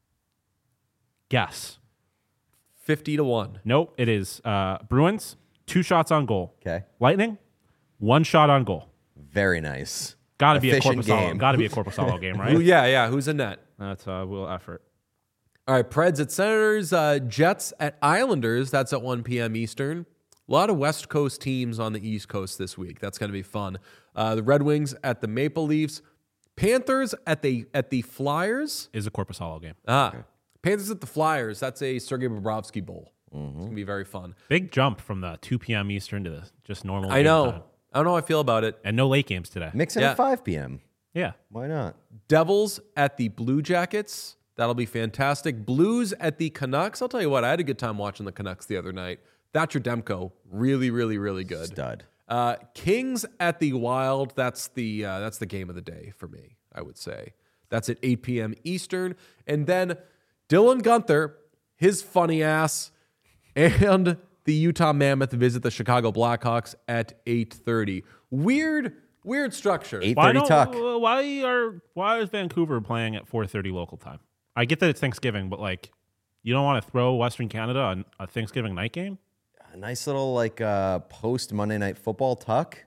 Guess. fifty to one. Nope. It is uh, Bruins two shots on goal. Okay. Lightning one shot on goal. Very nice. Got to be a Efficient Corpusalo. game. Got to be a Corpusalo game, Who, right? yeah, yeah. Who's in net? That's a real effort. All right, Preds at Senators, uh, Jets at Islanders. That's at one p.m. Eastern. A lot of West Coast teams on the East Coast this week. That's going to be fun. Uh, the Red Wings at the Maple Leafs. Panthers at the at the Flyers. Is a Corpusalo game. Ah, Panthers at the Flyers. That's a Sergei Bobrovsky Bowl. It's going to be very fun. Big jump from the two p.m. Eastern to the just normal. I game know. time. I don't know how I feel about it. And no late games today. Mix in Yeah. at five p.m. Yeah. Why not? Devils at the Blue Jackets. That'll be fantastic. Blues at the Canucks. I'll tell you what, I had a good time watching the Canucks the other night. Thatcher Demko, really, really, really good. Stud. Uh, Kings at the Wild. That's the uh, that's the game of the day for me, I would say. That's at eight p.m. Eastern. And then Dylan Gunther, his funny ass, and the Utah Mammoth visit the Chicago Blackhawks at eight thirty. Weird, weird structure. Eight Why thirty don't, tuck. uh, Why are why is Vancouver playing at four thirty local time? I get that it's Thanksgiving, but like, you don't want to throw Western Canada on a Thanksgiving night game? A nice little like uh, post Monday Night Football tuck.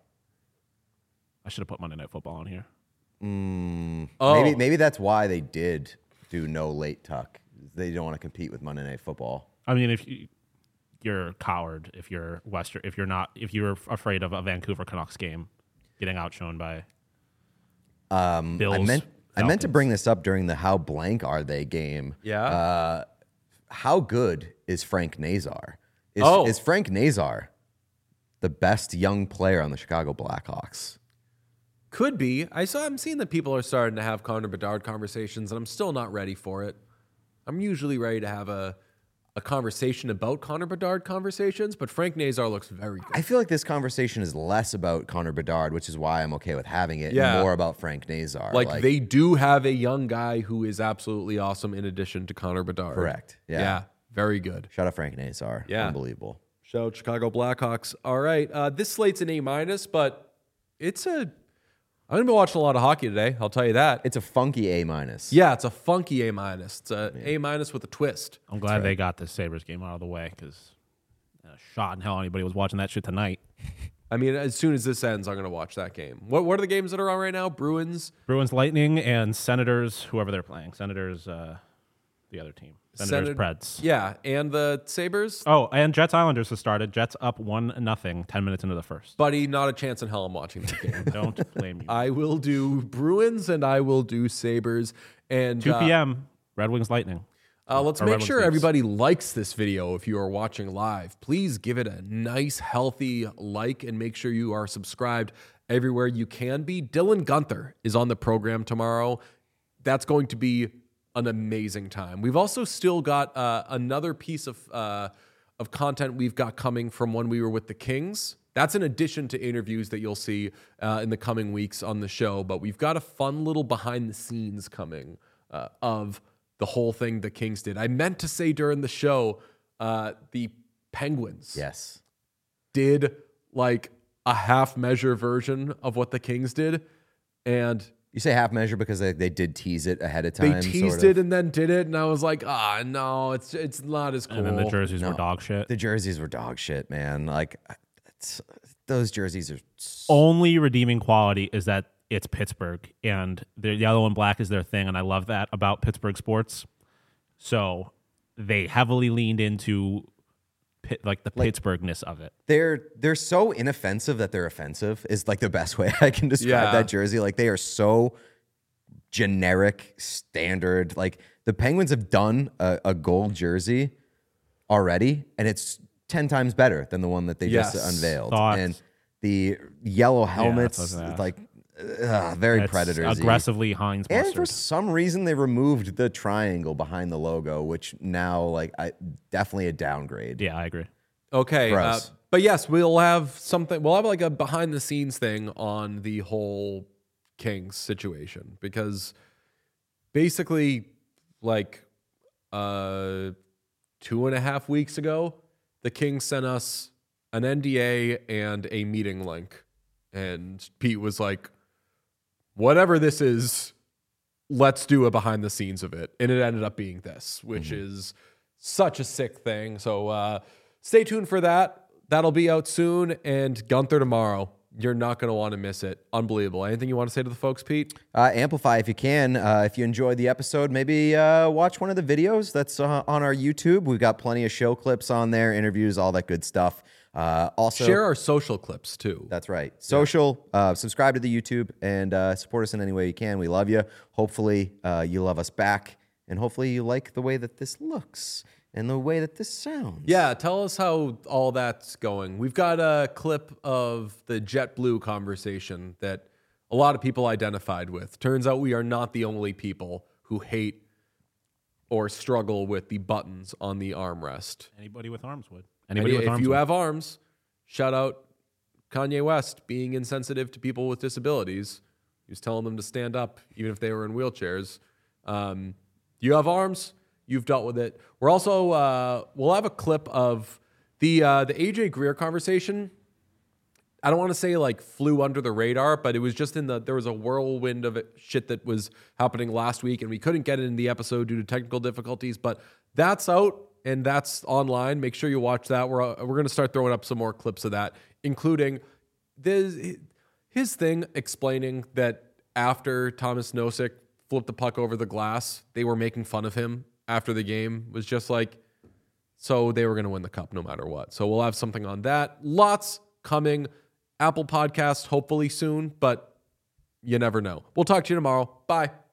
I should have put Monday Night Football on here. Oh. Maybe maybe that's why they did do no late tuck. They don't want to compete with Monday Night Football. I mean, if you, you're a coward if you're Western if you're not if you're afraid of a Vancouver Canucks game getting outshone by Um, Bills. I meant I meant to Falcons. bring this up during the How Blank Are They game. Yeah. Uh, how good is Frank Nazar? Is, Oh. is Frank Nazar the best young player on the Chicago Blackhawks? Could be. I saw. I'm seeing that people are starting to have Connor Bedard conversations, and I'm still not ready for it. I'm usually ready to have a a conversation about Connor Bedard conversations, but Frank Nazar looks very good. I feel like this conversation is less about Connor Bedard, which is why I'm okay with having it, Yeah. and more about Frank Nazar. Like, they do have a young guy who is absolutely awesome in addition to Connor Bedard. Correct. Yeah. Yeah. Very good. Shout out Frank Nazar. Yeah. Unbelievable. Shout out Chicago Blackhawks. All right. Uh, this slate's an A minus, but it's a. I'm gonna be watching a lot of hockey today. I'll tell you that. It's a funky A minus. Yeah, it's a funky A minus. It's a A minus with a twist. I'm glad they got the Sabres game out of the way because a shot in hell anybody was watching that shit tonight. I mean, as soon as this ends, I'm gonna watch that game. What What are the games that are on right now? Bruins, Bruins, Lightning, and Senators, whoever they're playing. Senators, uh, the other team. Senators, Senat- Preds. Yeah, and the Sabres. Oh, and Jets Islanders has started. Jets up one nothing. Ten minutes into the first. Buddy, not a chance in hell I'm watching that game. Don't blame you. I will do Bruins and I will do Sabres. And two uh, p.m. Red Wings Lightning. Uh, let's Or make Red Wings sure Leafs. everybody likes this video if you are watching live. Please give it a nice, healthy like and make sure you are subscribed everywhere you can be. Dylan Gunther is on the program tomorrow. That's going to be an amazing time. We've also still got uh, another piece of uh, of content we've got coming from when we were with the Kings. That's in addition to interviews that you'll see uh, in the coming weeks on the show. But we've got a fun little behind the scenes coming uh, of the whole thing the Kings did. I meant to say during the show, uh, the Penguins Yes. did like a half measure version of what the Kings did. And You say half measure because they, they did tease it ahead of they time. teased sort it of. and then did it. And I was like, ah, no, it's it's not as cool. And then the jerseys No. were dog shit. The jerseys were dog shit, man. Like, it's, those jerseys are. So, Only redeeming quality is that it's Pittsburgh and the yellow and black is their thing, and I love that about Pittsburgh sports. So they heavily leaned into pit, like the Like- Pittsburghness of it. they're they're so inoffensive that they're offensive. Is like the best way I can describe Yeah. that jersey. Like they are so generic, standard. Like the Penguins have done a, a gold jersey already, and it's ten times better than the one that they Yes. just unveiled. Thoughts? And the yellow that's what I helmets, was gonna ask. like uh, very It's Predators. aggressively Heinz And for mustard. some reason, they removed the triangle behind the logo, which now, like, I definitely a downgrade. Yeah, I agree. Okay. For Uh, us. but yes, we'll have something. We'll have like a behind the scenes thing on the whole Kings situation because basically, like uh, two and a half weeks ago, the Kings sent us an N D A and a meeting link. And Pete was like, whatever this is, let's do a behind the scenes of it. And it ended up being this, which is such a sick thing. So uh, stay tuned for that. That'll be out soon. And Gunther tomorrow. You're not going to want to miss it. Unbelievable. Anything you want to say to the folks, Pete? Uh, amplify if you can. Uh, if you enjoyed the episode, maybe uh, watch one of the videos that's uh, on our YouTube. We've got plenty of show clips on there, interviews, all that good stuff. Uh, also, Share our social clips too. That's right. Social, uh, subscribe to the YouTube, and uh, support us in any way you can. We love you. Hopefully, uh, you love us back, and hopefully, you like the way that this looks and the way that this sounds. Yeah, tell us how all that's going. We've got a clip of the JetBlue conversation that a lot of people identified with. Turns out we are not the only people who hate or struggle with the buttons on the armrest. Anybody with arms would. Any- Anybody with if arms you would. have arms, shout out Kanye West being insensitive to people with disabilities. He was telling them to stand up even if they were in wheelchairs. Um, you have arms, you've dealt with it. We're also uh, we'll have a clip of the uh, the A J Greer conversation. I don't want to say like flew under the radar, but it was just in the there was a whirlwind of it, shit that was happening last week, and we couldn't get it in the episode due to technical difficulties. But that's out and that's online. Make sure you watch that. We're uh, we're gonna start throwing up some more clips of that, including this his thing explaining that after Thomas Nosek flipped the puck over the glass, they were making fun of him after the game. Was just like, So they were going to win the cup no matter what. So we'll have something on that. Lots coming. Apple Podcast hopefully soon, but you never know. We'll talk to you tomorrow. Bye.